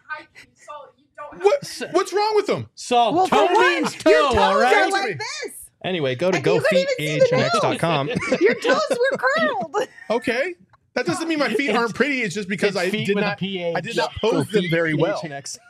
What's wrong with them? Saul, Well, toe for one, means your toe, toes all are right? like this. Anyway, go to And you couldn't even see the gophnx.com. Your toes were curled. Okay. That doesn't mean my feet aren't pretty. It's just because It's I feet did with a not PH. I did not pose them very well.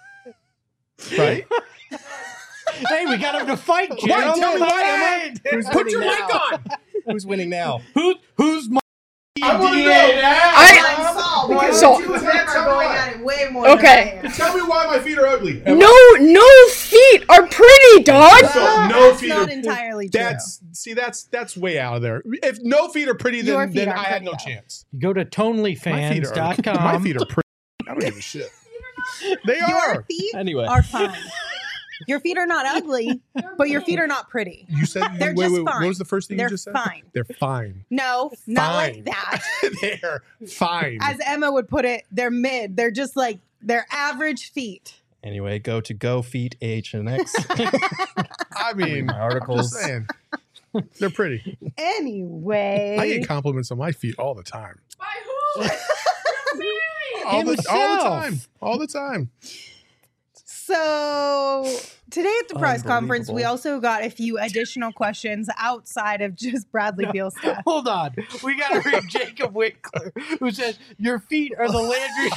Right? Hey, we got him to fight, Why? Gerald. Tell me why am I? Who's Put winning your now? mic on. Who's winning now? Who's my I want to know. Saul, because So- the two of them are going at it way more Okay. than I am. Tell me why my feet are ugly. No feet are pretty, dog. So no That's feet not are entirely true. That's way out of there. If no feet are pretty, Your then, feet then are I had no pretty, though. chance. Go to My feet are tonelyfans.com. my feet are pretty. I don't give a shit. They Your are. feet Anyway. are fine. Your feet are not ugly, but your feet are not pretty. You said They're wait, just wait, fine. what was the first thing They're you just said? fine. They're fine. No, not like Fine. that. They're fine. As Emma would put it, they're mid. They're just like they're average feet. Anyway, go to Go Feet AHNX. I mean, my articles. I'm just saying. They're pretty. Anyway. I get compliments on my feet all the time. By who? All the Himself. time. All the time. So today at the press conference, we Unbelievable. also got a few additional questions outside of just Bradley Beal stuff. Hold on. We got to read Jacob Wickler, who says, your feet are the Landry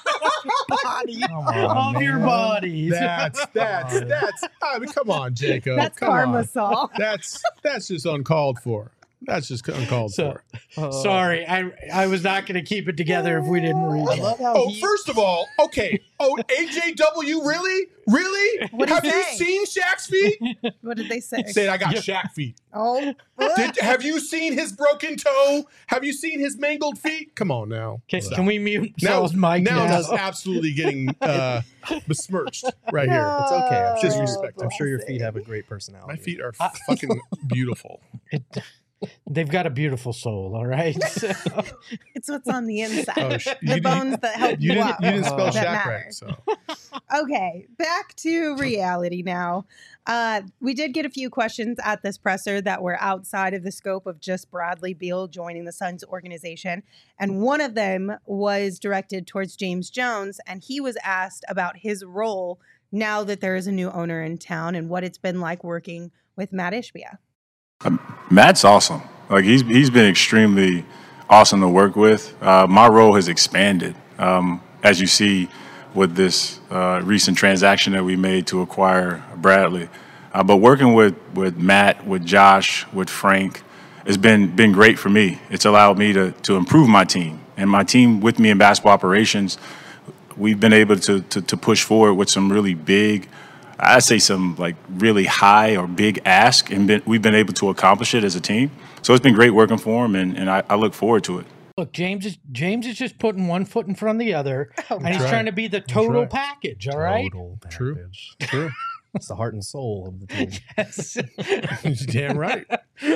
body on, of your man. bodies. That's I mean, come on, Jacob. That's come karma, on. Saul. That's just uncalled for. That's just uncalled So, for. sorry, I was not going to keep it together if we didn't read I it. love how Oh, he, first of all, okay. Oh, AJW, really? Really? What did Have he you say? seen Shaq's feet? What did they say? Said I got Shaq feet. Oh, Have you seen his broken toe? Have you seen his mangled feet? Come on now. Can we mute Now, Sal's mic now now? it's absolutely getting besmirched right here. it's okay. I'm sure, Disrespect. I'm sure your feet have a great personality. My feet are fucking beautiful. They've got a beautiful soul, all right? it's what's on the inside. Oh, The bones that help You you didn't, up. you didn't spell that Shaq matter. right. So Okay, back to reality now. We did get a few questions at this presser that were outside of the scope of just Bradley Beal joining the Suns organization. And one of them was directed towards James Jones, and he was asked about his role now that there is a new owner in town and what it's been like working with Matt Ishbia. Matt's awesome. Like he's been extremely awesome to work with. My role has expanded, as you see with this recent transaction that we made to acquire Bradley. But working with Matt, with Josh, with Frank, has been great for me. It's allowed me to improve my team, and my team with me in basketball operations. We've been able to push forward with some really big, I'd say some like really high or big ask, and we've been able to accomplish it as a team. So it's been great working for him, and I look forward to it. Look, James is just putting one foot in front of the other, and he's right. trying to be the total right. package, all right? Total True. package. true. It's the heart and soul of the team. Yes. You're damn right.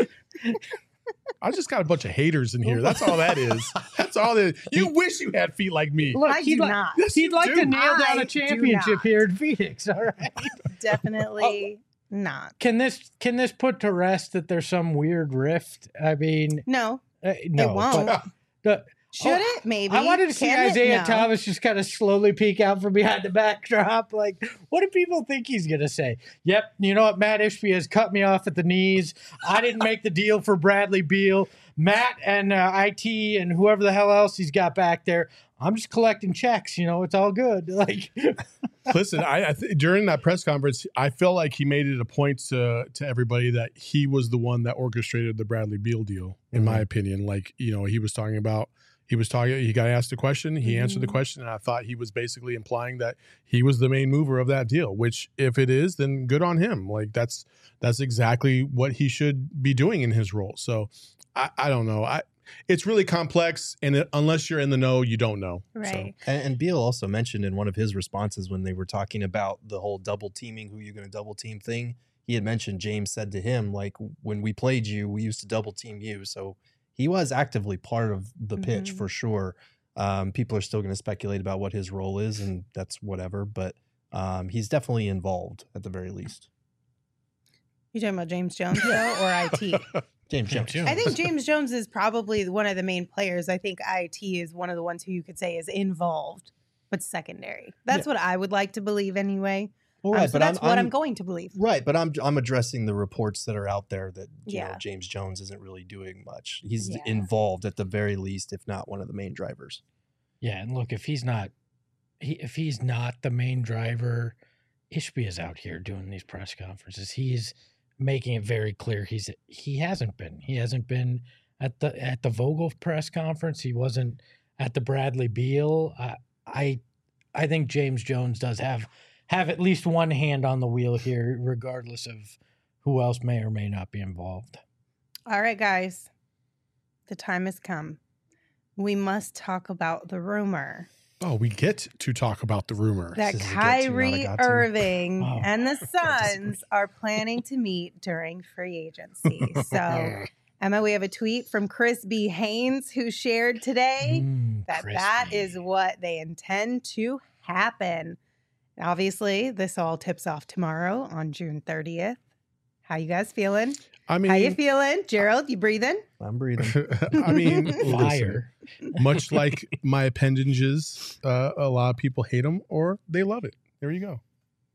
I just got a bunch of haters in here. That's all that is. That's all that is. You wish you had feet like me. Look, I do not. Yes, He'd you like do. to nail down I a do championship not. here in Phoenix, all right? Definitely not. Can this put to rest that there's some weird rift? I mean, No, no, it won't. but the, Should it? Maybe. I wanted to see Can it? Isaiah No. Thomas just kind of slowly peek out from behind the backdrop. Like, what do people think he's going to say? Yep, you know what? Matt Ishbia has cut me off at the knees. I didn't make the deal for Bradley Beal. Matt and IT and whoever the hell else he's got back there. I'm just collecting checks. You know, it's all good. Like, Listen, during that press conference, I felt like he made it a point to everybody that he was the one that orchestrated the Bradley Beal deal, in my opinion. Like, you know, he got asked a question, he answered the question, and I thought he was basically implying that he was the main mover of that deal, which if it is, then good on him. Like that's exactly what he should be doing in his role. So I don't know. It's really complex, and unless you're in the know, you don't know. Right. And Beal also mentioned in one of his responses when they were talking about the whole double teaming, who you're going to double team thing, he had mentioned James said to him, like, when we played you, we used to double team you. So he was actively part of the pitch for sure. People are still going to speculate about what his role is, and that's whatever. But he's definitely involved at the very least. You talking about James Jones though, or IT? James Jones. I think James Jones is probably one of the main players. I think IT is one of the ones who you could say is involved, but secondary. That's what I would like to believe anyway. Well, right, So but that's what I'm going to believe. Right, but I'm addressing the reports that are out there that you know, Yeah. James Jones isn't really doing much. He's Yeah. involved at the very least, if not one of the main drivers. yeah, and look, if he's not the main driver, Ishbia's out here doing these press conferences. He's making it very clear he hasn't been at the Vogel press conference. He wasn't at the Bradley Beal. I think James Jones does have at least one hand on the wheel here, regardless of who else may or may not be involved. All right, guys. The time has come. We must talk about the rumor Oh, we get to talk about the rumor. that This is a get to, not a Kyrie got to. Irving Oh. and the Suns are planning to meet during free agency. So, Emma, we have a tweet from Chris B. Haynes who shared today that is what they intend to happen. Obviously, this all tips off tomorrow on June 30th. How you guys feeling? I mean, How you feeling? Gerald, you breathing? I'm breathing. I mean, Fire. listen, much like my appendages, a lot of people hate them or they love it. There you go.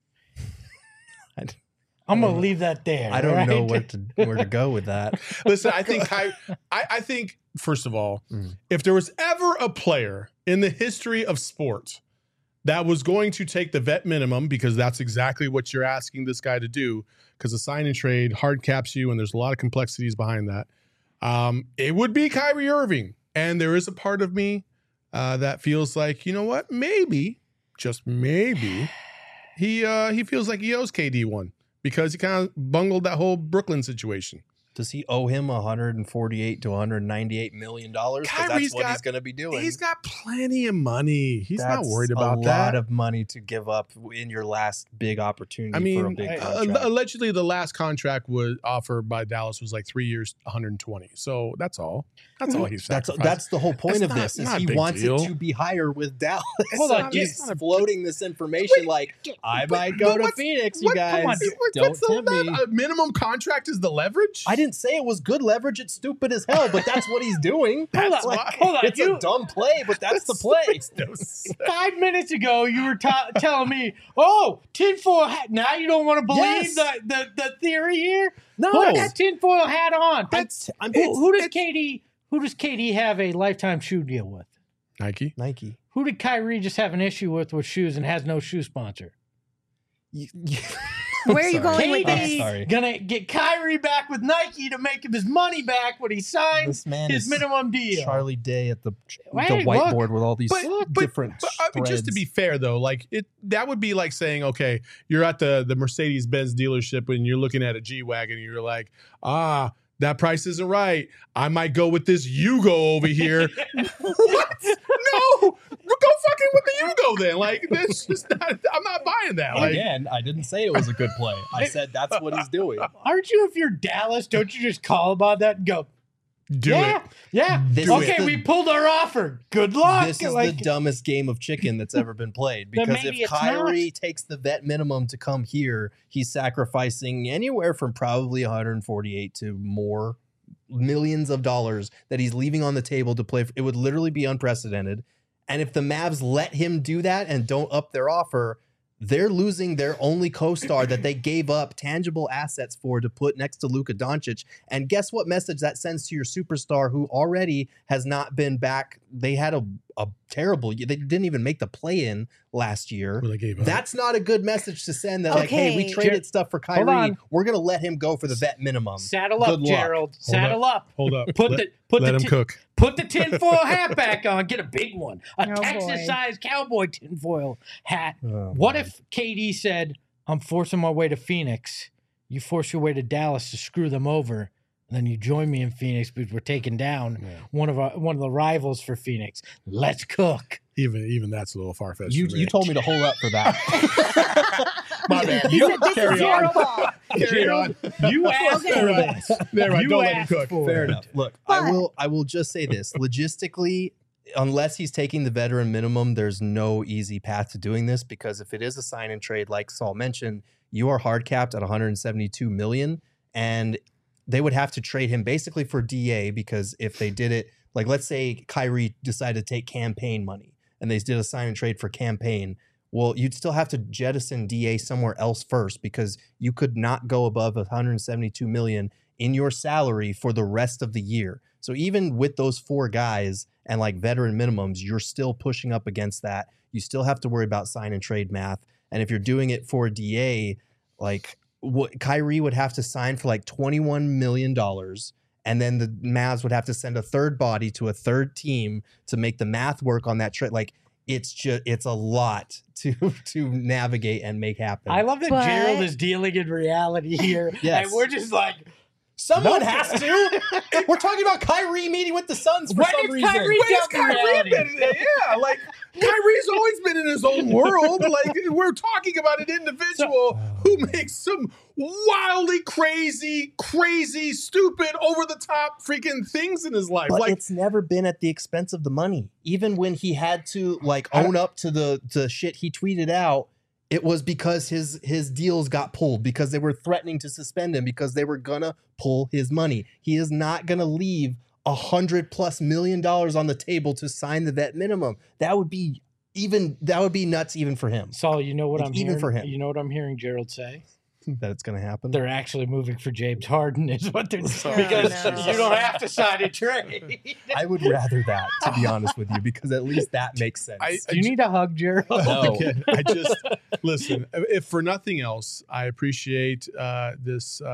I'm gonna leave that there. I don't know right? where to go with that. Listen, I think I think first of all, if there was ever a player in the history of sport that was going to take the vet minimum, because that's exactly what you're asking this guy to do, because the sign and trade hard caps you, and there's a lot of complexities behind that. It would be Kyrie Irving, and there is a part of me that feels like, you know what, maybe, just maybe, he feels like he owes KD one because he kind of bungled that whole Brooklyn situation. Does he owe him $148 to $198 million? Because that's what he's going to be doing. He's got plenty of money. He's not worried about a that. lot of money to give up in your last big opportunity I mean, for a big contract. allegedly, the last contract was offered by Dallas was like 3 years, 120. So that's all. That's all he's sacrificing. That's the whole point That's of not- this. Is not a he big wants deal. it to be higher with Dallas. Hold on, He's it's not a- floating this information like I might go to Phoenix. You guys don't tempt me. A minimum contract is the leverage. I didn't say it was good leverage. It's stupid as hell, but that's what he's doing. Hold That's on, why. hold on. It's a dumb play, but that's the play. 5 minutes ago, you were telling me, "Oh, tinfoil hat." Now you don't want to believe Yes. the theory here. No. Put that tinfoil hat on. I'm Who does KD have a lifetime shoe deal with? Nike. Nike. Who did Kyrie just have an issue with shoes and has no shoe sponsor? Where are you going with KD this? gonna get Kyrie back with Nike to make him his money back when he signs This man his is minimum deal. Charlie Day at the Hey, whiteboard look. with all these different I mean, just to be fair though, like that would be like saying, okay, you're at the Mercedes-Benz dealership and you're looking at a G-Wagon and you're like, that price isn't right. I might go with this Yugo over here. What? No, go fucking with the Yugo then. Like that's just not. I'm not buying that. Like, Again, I didn't say it was a good play. I said that's what he's doing. Aren't you, if you're Dallas, don't you just call about that and go, do it. Yeah. This Okay, is the- we pulled our offer. Good luck. This is Like, the dumbest game of chicken that's ever been played. Then Because maybe if it's Kyrie takes the vet minimum to come here, he's sacrificing anywhere from probably 148 to more millions of dollars that he's leaving on the table to play. It would literally be unprecedented. And if the Mavs let him do that and don't up their offer, they're losing their only co-star that they gave up tangible assets for to put next to Luka Doncic. And guess what message that sends to your superstar who already has not been back? They had a terrible, they didn't even make the play-in last year. Well, they gave up. That's not a good message to send that, like, hey, we Okay. traded stuff for Hold Kyrie. on. We're going to let him go for the vet minimum. saddle up, Good luck. Gerald. Saddle up. Hold up. Put let him cook. Put the tinfoil hat back on. Get a big one. A Oh, boy. Texas-sized cowboy tinfoil hat. Oh, What man. if KD said, I'm forcing my way to Phoenix. You force your way to Dallas to screw them over. And then you join me in Phoenix because we're taking down one of the rivals for Phoenix. Let's cook. Even that's a little far fetched. You told me to hold up for that. My bad. He said, this Carry is your on. fault. Carry on. You asked Okay. for this. There, right. You Don't let him asked cook. for Fair it. enough. Look, But- I will just say this. Logistically, unless he's taking the veteran minimum, there's no easy path to doing this, because if it is a sign and trade, like Saul mentioned, you are hard capped at 172 million, and they would have to trade him basically for DA, because if they did it, like let's say Kyrie decided to take campaign money and they did a sign and trade for campaign, well, you'd still have to jettison DA somewhere else first, because you could not go above 172 million in your salary for the rest of the year. So even with those four guys and like veteran minimums, you're still pushing up against that. You still have to worry about sign and trade math. And if you're doing it for DA, like what Kyrie would have to sign for like $21 million. And then the Mavs would have to send a third body to a third team to make the math work on that trade. Like it's a lot to navigate and make happen. I love that But- Gerald is dealing in reality here. Yes. And we're just like, Someone has to. We're talking about Kyrie meeting with the Suns for some reason. Where's Kyrie been? Yeah, like Kyrie's always been in his own world. Like we're talking about an individual who makes some wildly crazy, stupid, over the top freaking things in his life. But like it's never been at the expense of the money. Even when he had to like own up to the shit he tweeted out, it was because his deals got pulled, because they were threatening to suspend him, because they were gonna pull his money. He is not gonna leave $100+ million on the table to sign the vet minimum. That would be nuts even for him. Saul, you know what Like, I'm even hearing? for him. You know what I'm hearing Gerald say? That it's gonna happen. They're actually moving for James Harden, is what they're Oh, because no. you don't have to sign a trade. I would rather that, to be honest with you, because at least that makes sense. Do you need a hug, Gerald? No. Again, I just listen. If for nothing else, I appreciate this.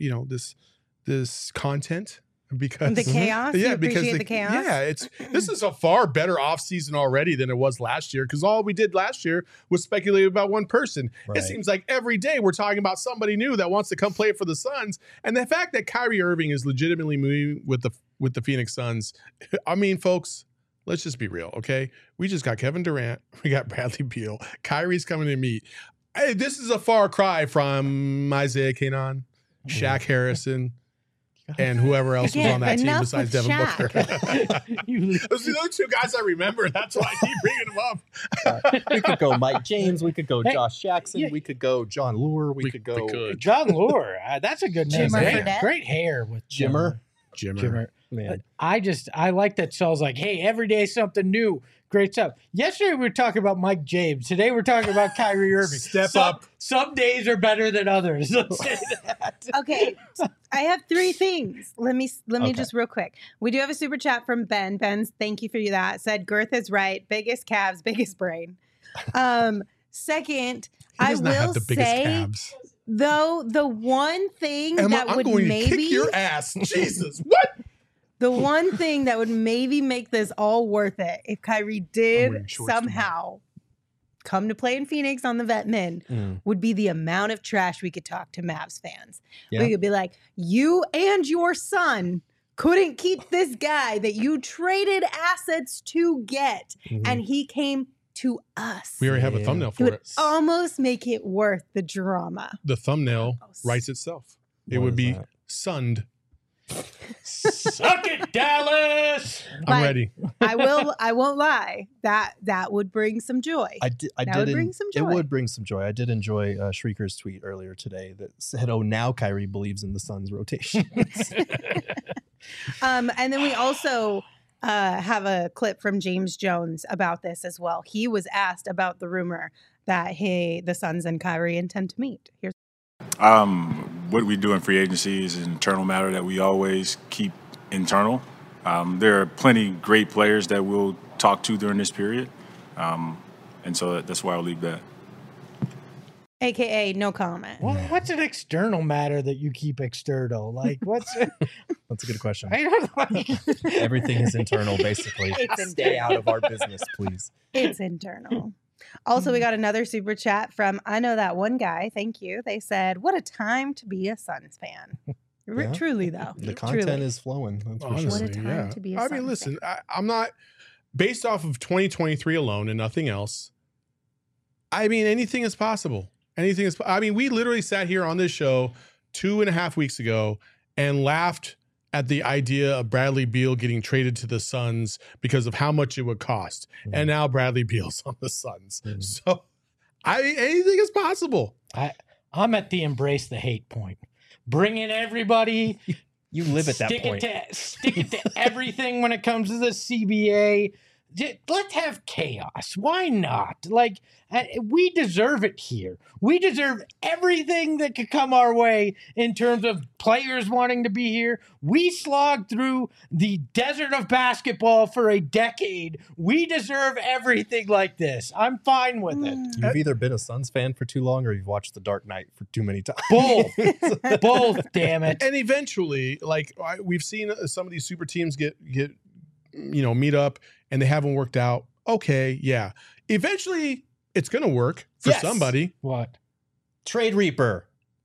This content because The chaos? You appreciate the chaos? Yeah, this is a far better offseason already than it was last year, because all we did last year was speculate about one person. Right. It seems like every day we're talking about somebody new that wants to come play for the Suns, and the fact that Kyrie Irving is legitimately moving with the Phoenix Suns. I mean, folks, let's just be real, okay? We just got Kevin Durant, we got Bradley Beal, Kyrie's coming to meet. Hey, this is a far cry from Isaiah Kanan, Shaq Harrison, and whoever else was on that team enough besides with Devin Shaq. Booker. Those are the two guys I remember. That's why I keep bringing them up. We could go Mike James. We could go Hey, Josh Jackson. yeah. We could go John Lure. We could go John Lure. That's a good name. Jimmer Great, Fredette? great hair with Jimmer. Jimmer. Man. I like that Saul's like, hey, every day something new. Great stuff. Yesterday we were talking about Mike James. Today we're talking about Kyrie Irving. Step up. Some days are better than others. Let's say that. Okay, I have 3 things. Let me Okay. just real quick. We do have a super chat from Ben. Ben's, thank you for that. Said Girth is right. Biggest calves, biggest brain. Second, He I does not will have the biggest say calves. though the one thing Emma, that I'm would going to maybe kick your ass. Jesus, what? the one thing that would maybe make this all worth it if Kyrie I'm did wearing shorts somehow come to play in Phoenix on the vet min would be the amount of trash we could talk to Mavs fans. Yeah. We could be like, you and your son couldn't keep this guy that you traded assets to get, and he came to us. We already have a Yeah. thumbnail It for would it. almost make it worth the drama. The thumbnail writes itself. It What would is be that? sunned. Suck it, Dallas. I'm Like, ready. I won't lie. That would bring some joy. I That would bring some It joy. would bring some joy. I did enjoy Shrieker's tweet earlier today that said, "Oh, now Kyrie believes in the Suns' rotation." And then we also have a clip from James Jones about this as well. He was asked about the rumor that the Suns and Kyrie intend to meet. Here's What we do in free agency is an internal matter that we always keep internal. There are plenty great players that we'll talk to during this period, and so that's why I'll leave that. AKA no comment. What's an external matter that you keep external? Like, what's That's a good question. I don't like. Everything is internal, basically. It's Stay out of our business, please. It's internal. Also, we got another super chat from I know that one guy. Thank you. They said, "What a time to be a Suns fan." Yeah. Truly, though. The content Truly. is flowing. That's for Honestly, What a sure. time yeah. to be a I Suns mean, listen, fan. I'm not based off of 2023 alone and nothing else. I mean, anything is possible. Anything is. I mean, we literally sat here on this show 2.5 weeks ago and laughed at the idea of Bradley Beal getting traded to the Suns because of how much it would cost. And now Bradley Beal's on the Suns. So anything is possible. I'm at the embrace the hate point. Bring in everybody. You live at that stick point. Stick it to everything when it comes to the CBA. Let's have chaos. Why not? Like, we deserve it here. We deserve everything that could come our way in terms of players wanting to be here. We slogged through the desert of basketball for a decade. We deserve everything like this. I'm fine with it. You've either been a Suns fan for too long or you've watched The Dark Knight for too many times. Both. Both, damn it. And eventually, like we've seen some of these super teams get meet up and they haven't worked out. Okay, yeah. Eventually, it's going to work for Yes. somebody. What? Trade Reaper.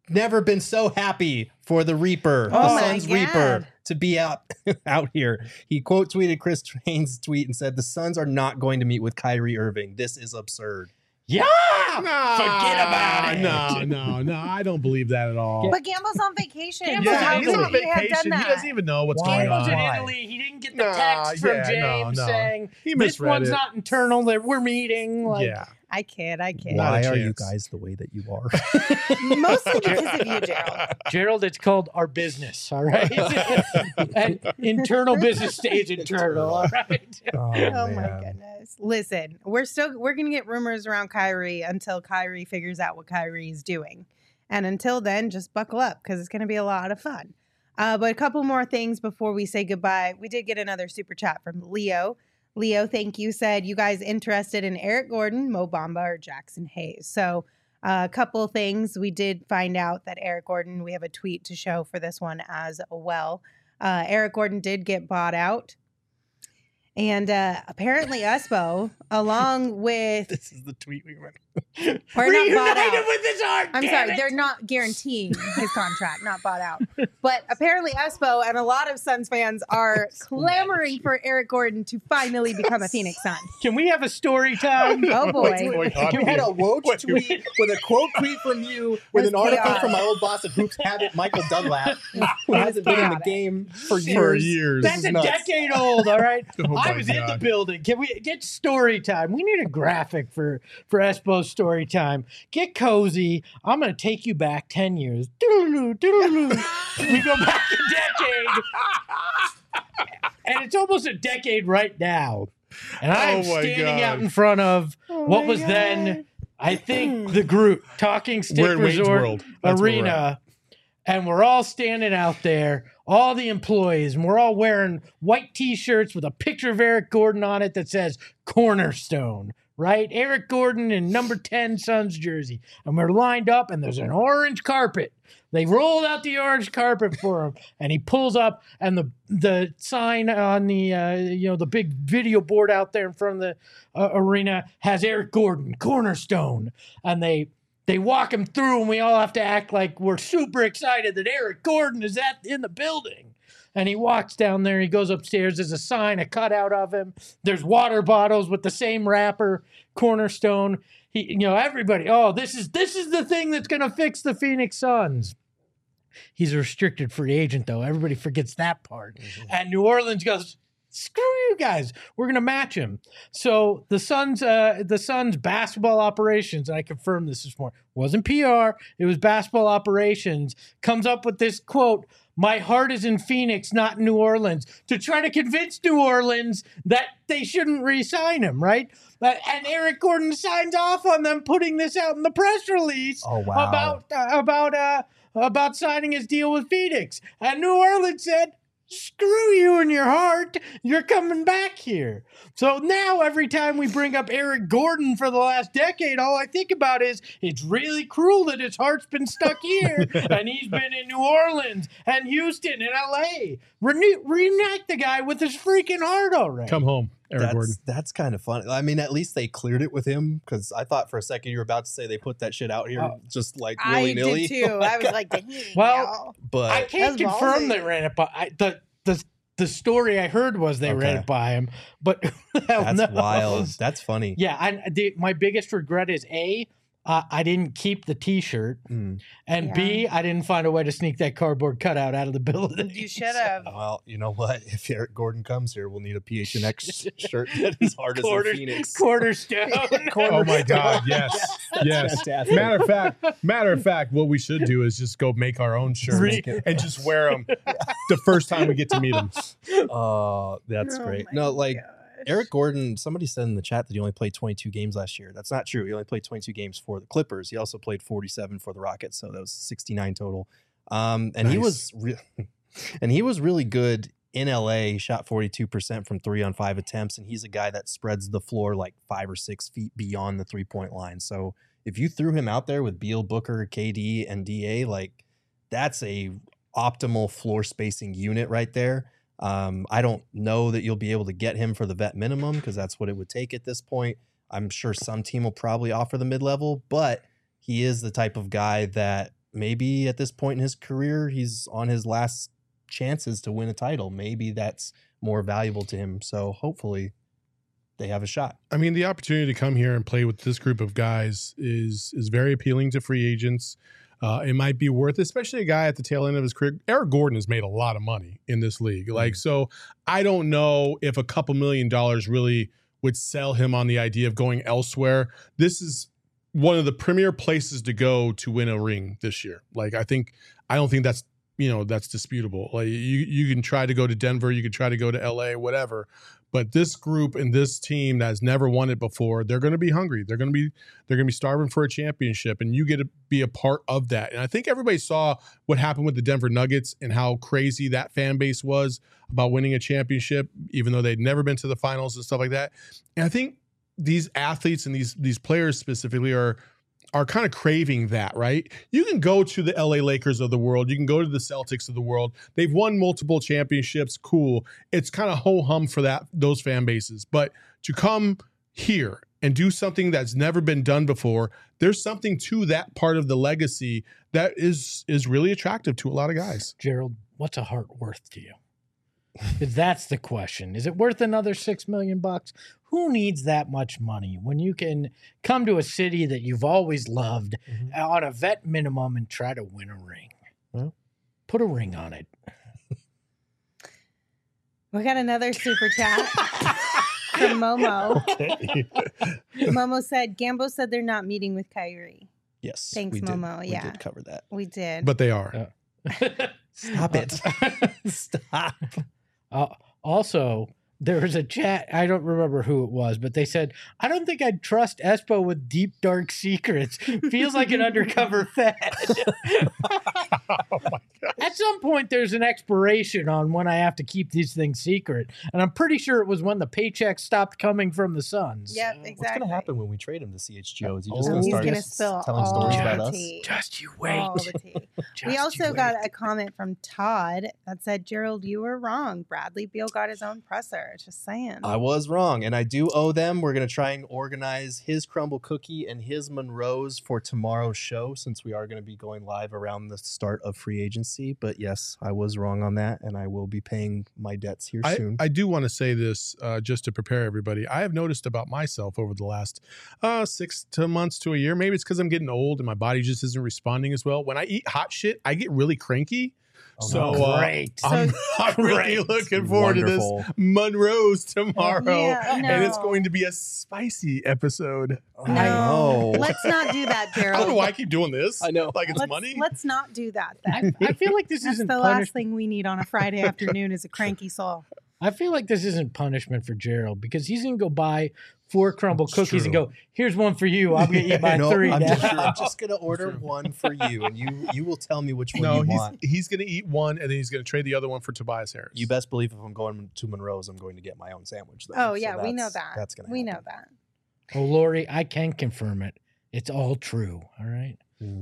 never been so happy for the Reaper, Oh the my Suns God. Reaper, to be out here. He quote tweeted Chris Haynes' tweet and said, "The Suns are not going to meet with Kyrie Irving. This is absurd." Yeah. Forget about it. No. I don't believe that at all. But Gamble's on vacation. Gamble's so Yeah, how he's could on he have done vacation. He that? doesn't even know what's He going was in on. Why? Italy. He didn't get the Nah, text from yeah, James no. saying He this misread one's it. not internal. That we're meeting. Like, Yeah. I kid. Not Why a are you chance. guys the way that you are? Mostly because of you, Gerald. Gerald, it's called our business. All right. And internal business stays internal. All right. Oh my goodness. Listen, we're gonna get rumors around Kyrie until Kyrie figures out what Kyrie is doing. And until then, just buckle up because it's gonna be a lot of fun. But a couple more things before we say goodbye. We did get another super chat from Leo. Leo, thank you, said you guys interested in Eric Gordon, Mo Bamba, or Jackson Hayes. So a couple things. We did find out that Eric Gordon, we have a tweet to show for this one as well. Eric Gordon did get bought out. And apparently Espo, along with... This is the tweet we read. Or not bought out. Reunited with his art. I'm damn sorry, it. they're not guaranteeing his contract, not bought out. But apparently Espo and a lot of Suns fans are clamoring for Eric Gordon to finally become a Phoenix Sun. Can we have a story time? Oh boy. You had a Woj tweet with a quote tweet from you with an That's article chaotic. from my old boss at Hoops Habit, Michael Dunlap, who hasn't been in the chaotic. game for years. For years. That's is a nuts. decade old, all right? Oh I my was in the God. building. Can we get story time? We need a graphic for Espo's story time. Get cozy. I'm going to take you back 10 years. Doodaloo, doodaloo. We go back a decade. And it's almost a decade right now. And I'm Oh my standing God. out in front of what was then, I think, the Groot, Talking Stick We're in Wayne's Resort World. That's where we're Arena. And we're all standing out there, all the employees, and we're all wearing white T-shirts with a picture of Eric Gordon on it that says Cornerstone, right? Eric Gordon in number 10 Suns jersey. And we're lined up, and there's an orange carpet. They rolled out the orange carpet for him, and he pulls up, and the sign on the the big video board out there in front of the arena has Eric Gordon, Cornerstone, and they walk him through, and we all have to act like we're super excited that Eric Gordon is in the building. And he walks down there. He goes upstairs. There's a sign, a cutout of him. There's water bottles with the same wrapper, Cornerstone. Everybody. Oh, this is the thing that's going to fix the Phoenix Suns. He's a restricted free agent, though. Everybody forgets that part. Mm-hmm. And New Orleans goes, screw you guys. We're going to match him. So the Suns basketball operations, and I confirmed this morning, wasn't PR. It was basketball operations, comes up with this quote, "My heart is in Phoenix, not in New Orleans," to try to convince New Orleans that they shouldn't re-sign him, right? And Eric Gordon signs off on them putting this out in the press release about signing his deal with Phoenix. And New Orleans said, screw you and your heart. You're coming back here. So now every time we bring up Eric Gordon for the last decade, all I think about is it's really cruel that his heart's been stuck here and he's been in New Orleans and Houston and LA. Reunite the guy with his freaking heart already. Come home, Eric Gordon. That's kind of funny. I mean, at least they cleared it with him, because I thought for a second you were about to say they put that shit out here just like I willy-nilly. did too. I was like, dang, Well, y'all. But I can't That's confirm ballsy. they ran it by the story I heard was they ran it by him, but who the hell that's knows? wild. That's funny. Yeah, my biggest regret is I didn't keep the T-shirt, and B, I didn't find a way to sneak that cardboard cutout out of the building. You should have. Well, you know what? If Eric Gordon comes here, we'll need a PHNX shirt that is hard as a Phoenix. Cornerstone. Oh my God! Yes, yes. fantastic. Matter of fact, what we should do is just go make our own shirts and just wear them the first time we get to meet them. Oh, that's great. my No, like gosh. Eric Gordon, somebody said in the chat that he only played 22 games last year. That's not true. He only played 22 games for the Clippers. He also played 47 for the Rockets, so that was 69 total. And he was really good in LA. He shot 42% from 3 on 5 attempts, and he's a guy that spreads the floor like 5 or 6 feet beyond the 3-point line. So if you threw him out there with Beal, Booker, KD, and DA, like that's a optimal floor spacing unit right there. I don't know that you'll be able to get him for the vet minimum, because that's what it would take at this point. I'm sure some team will probably offer the mid-level, but he is the type of guy that maybe at this point in his career, he's on his last chances to win a title. Maybe that's more valuable to him. So hopefully they have a shot. I mean, the opportunity to come here and play with this group of guys is very appealing to free agents. It might be worth, especially a guy at the tail end of his career. Eric Gordon has made a lot of money in this league. Like, so I don't know if a couple $1 million really would sell him on the idea of going elsewhere. This is one of the premier places to go to win a ring this year. Like, I don't think that's, that's disputable. Like, you can try to go to Denver, you can try to go to LA, whatever. But this group and this team that has never won it before, they're going to be hungry. They're going to be starving for a championship, and you get to be a part of that. And I think everybody saw what happened with the Denver Nuggets and how crazy that fan base was about winning a championship, even though they'd never been to the finals and stuff like that. And I think these athletes and these players specifically are kind of craving that, right? You can go to the LA Lakers of the world. You can go to the Celtics of the world. They've won multiple championships. Cool. It's kind of ho-hum for those fan bases. But to come here and do something that's never been done before, there's something to that part of the legacy that is really attractive to a lot of guys. Gerald, what's a heart worth to you? Because that's the question. Is it worth another $6 million? Who needs that much money when you can come to a city that you've always loved on a vet minimum and try to win a ring? Well, put a ring on it. We got another super chat from Momo. Okay. Momo said, Gambo said they're not meeting with Kyrie. Yes. Thanks, Momo. We did cover that. We did. But they are. Stop it. Stop. Also, there was a chat. I don't remember who it was, but they said, I don't think I'd trust Espo with deep, dark secrets. Feels like an undercover Fed. Oh my gosh. At some point, there's an expiration on when I have to keep these things secret. And I'm pretty sure it was when the paychecks stopped coming from the Suns. Yep, exactly. What's going to happen when we trade him to CHGO? Is he just Oh, going to he's start gonna spill telling all stories the about us? tea. Just you wait. All the tea. We Just also you got wait. a comment from Todd that said, Gerald, you were wrong. Bradley Beal got his own presser. Just saying. I was wrong, and I do owe them. We're going to try and organize his crumble cookie and his Monroe's for tomorrow's show, since we are going to be going live around the start of free agency. But yes, I was wrong on that, and I will be paying my debts here soon. I do want to say this just to prepare everybody. I have noticed about myself over the last 6 months to a year. Maybe it's because I'm getting old and my body just isn't responding as well. When I eat hot shit, I get really cranky. Great. I'm really looking forward to this Monroe's tomorrow. Yeah, And it's no. going to be a spicy episode. No, I know. let's not do that, I don't know Gerald. why I keep doing this. I know. Like it's let's, money. let's not do that then. I feel like this That's isn't the last punishment. thing we need on a Friday afternoon is a cranky soul. I feel like this isn't punishment for Gerald because he's going to go buy 4 crumble It's cookies and true. go, here's one for you. I'm going to eat my No, 3 I'm now. just going to order one for you, and you will tell me which one No, you want. he's going to eat one and then he's going to trade the other one for Tobias Harris. You best believe if I'm going to Monroe's, I'm going to get my own sandwich. Though. Oh, So yeah, we know that's- that. That's going to We know that. Oh, Lori, I can confirm it. It's all true. All right.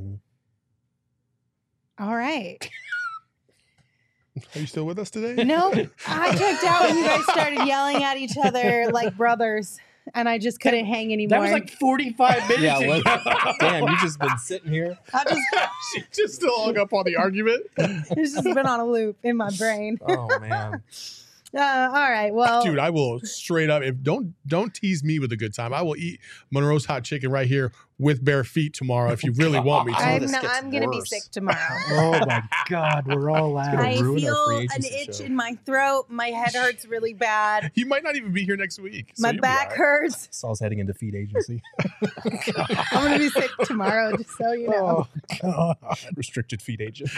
All right. Are you still with us today? No, I checked out when you guys started yelling at each other like brothers, and I just couldn't hang anymore. That was like 45 minutes Yeah, ago. damn, you've just been sitting here. I just, She just still hung up on the argument. it's just been on a loop in my brain. Oh man. All right. Well, Dude, I will straight up, if don't tease me with a good time. I will eat Monroe's hot chicken right here with bare feet tomorrow if you really want me to. this gets I'm going to be worse. sick tomorrow. Oh, my God. We're all gonna out. I ruin our feel free an agency itch show. in my throat. My head hurts really bad. You might not even be here next week. so My you'll be back all right. hurts. Saul's heading into feed agency. I'm going to be sick tomorrow, just so you know. Oh, God. Restricted feed agent.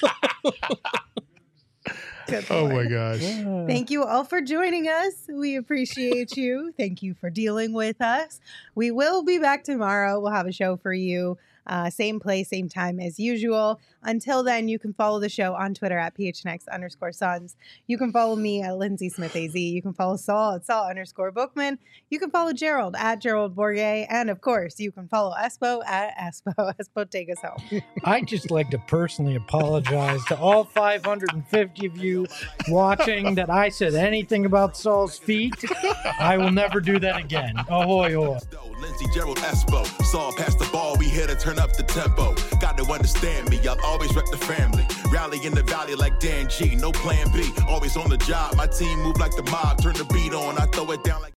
Good Oh Lord. my gosh. Thank you all for joining us. We appreciate you. Thank you for dealing with us. We will be back tomorrow. We'll have a show for you. Same place, same time as usual. Until then, you can follow the show on Twitter at PHNX_Suns. You can follow me at Lindsay Smith AZ. You can follow Saul at Saul_Bookman. You can follow Gerald at Gerald Bourget. And of course, you can follow Espo at Espo. Espo, take us home. I'd just like to personally apologize to all 550 of you watching that I said anything about Saul's feet. I will never do that again. Ahoy, ahoy. Fitzgerald Espo. Saw past the ball, we here to turn up the tempo. Got to understand me, I'll always rep the family. Rally in the valley like Dan G, no plan B. Always on the job, my team move like the mob. Turn the beat on, I throw it down like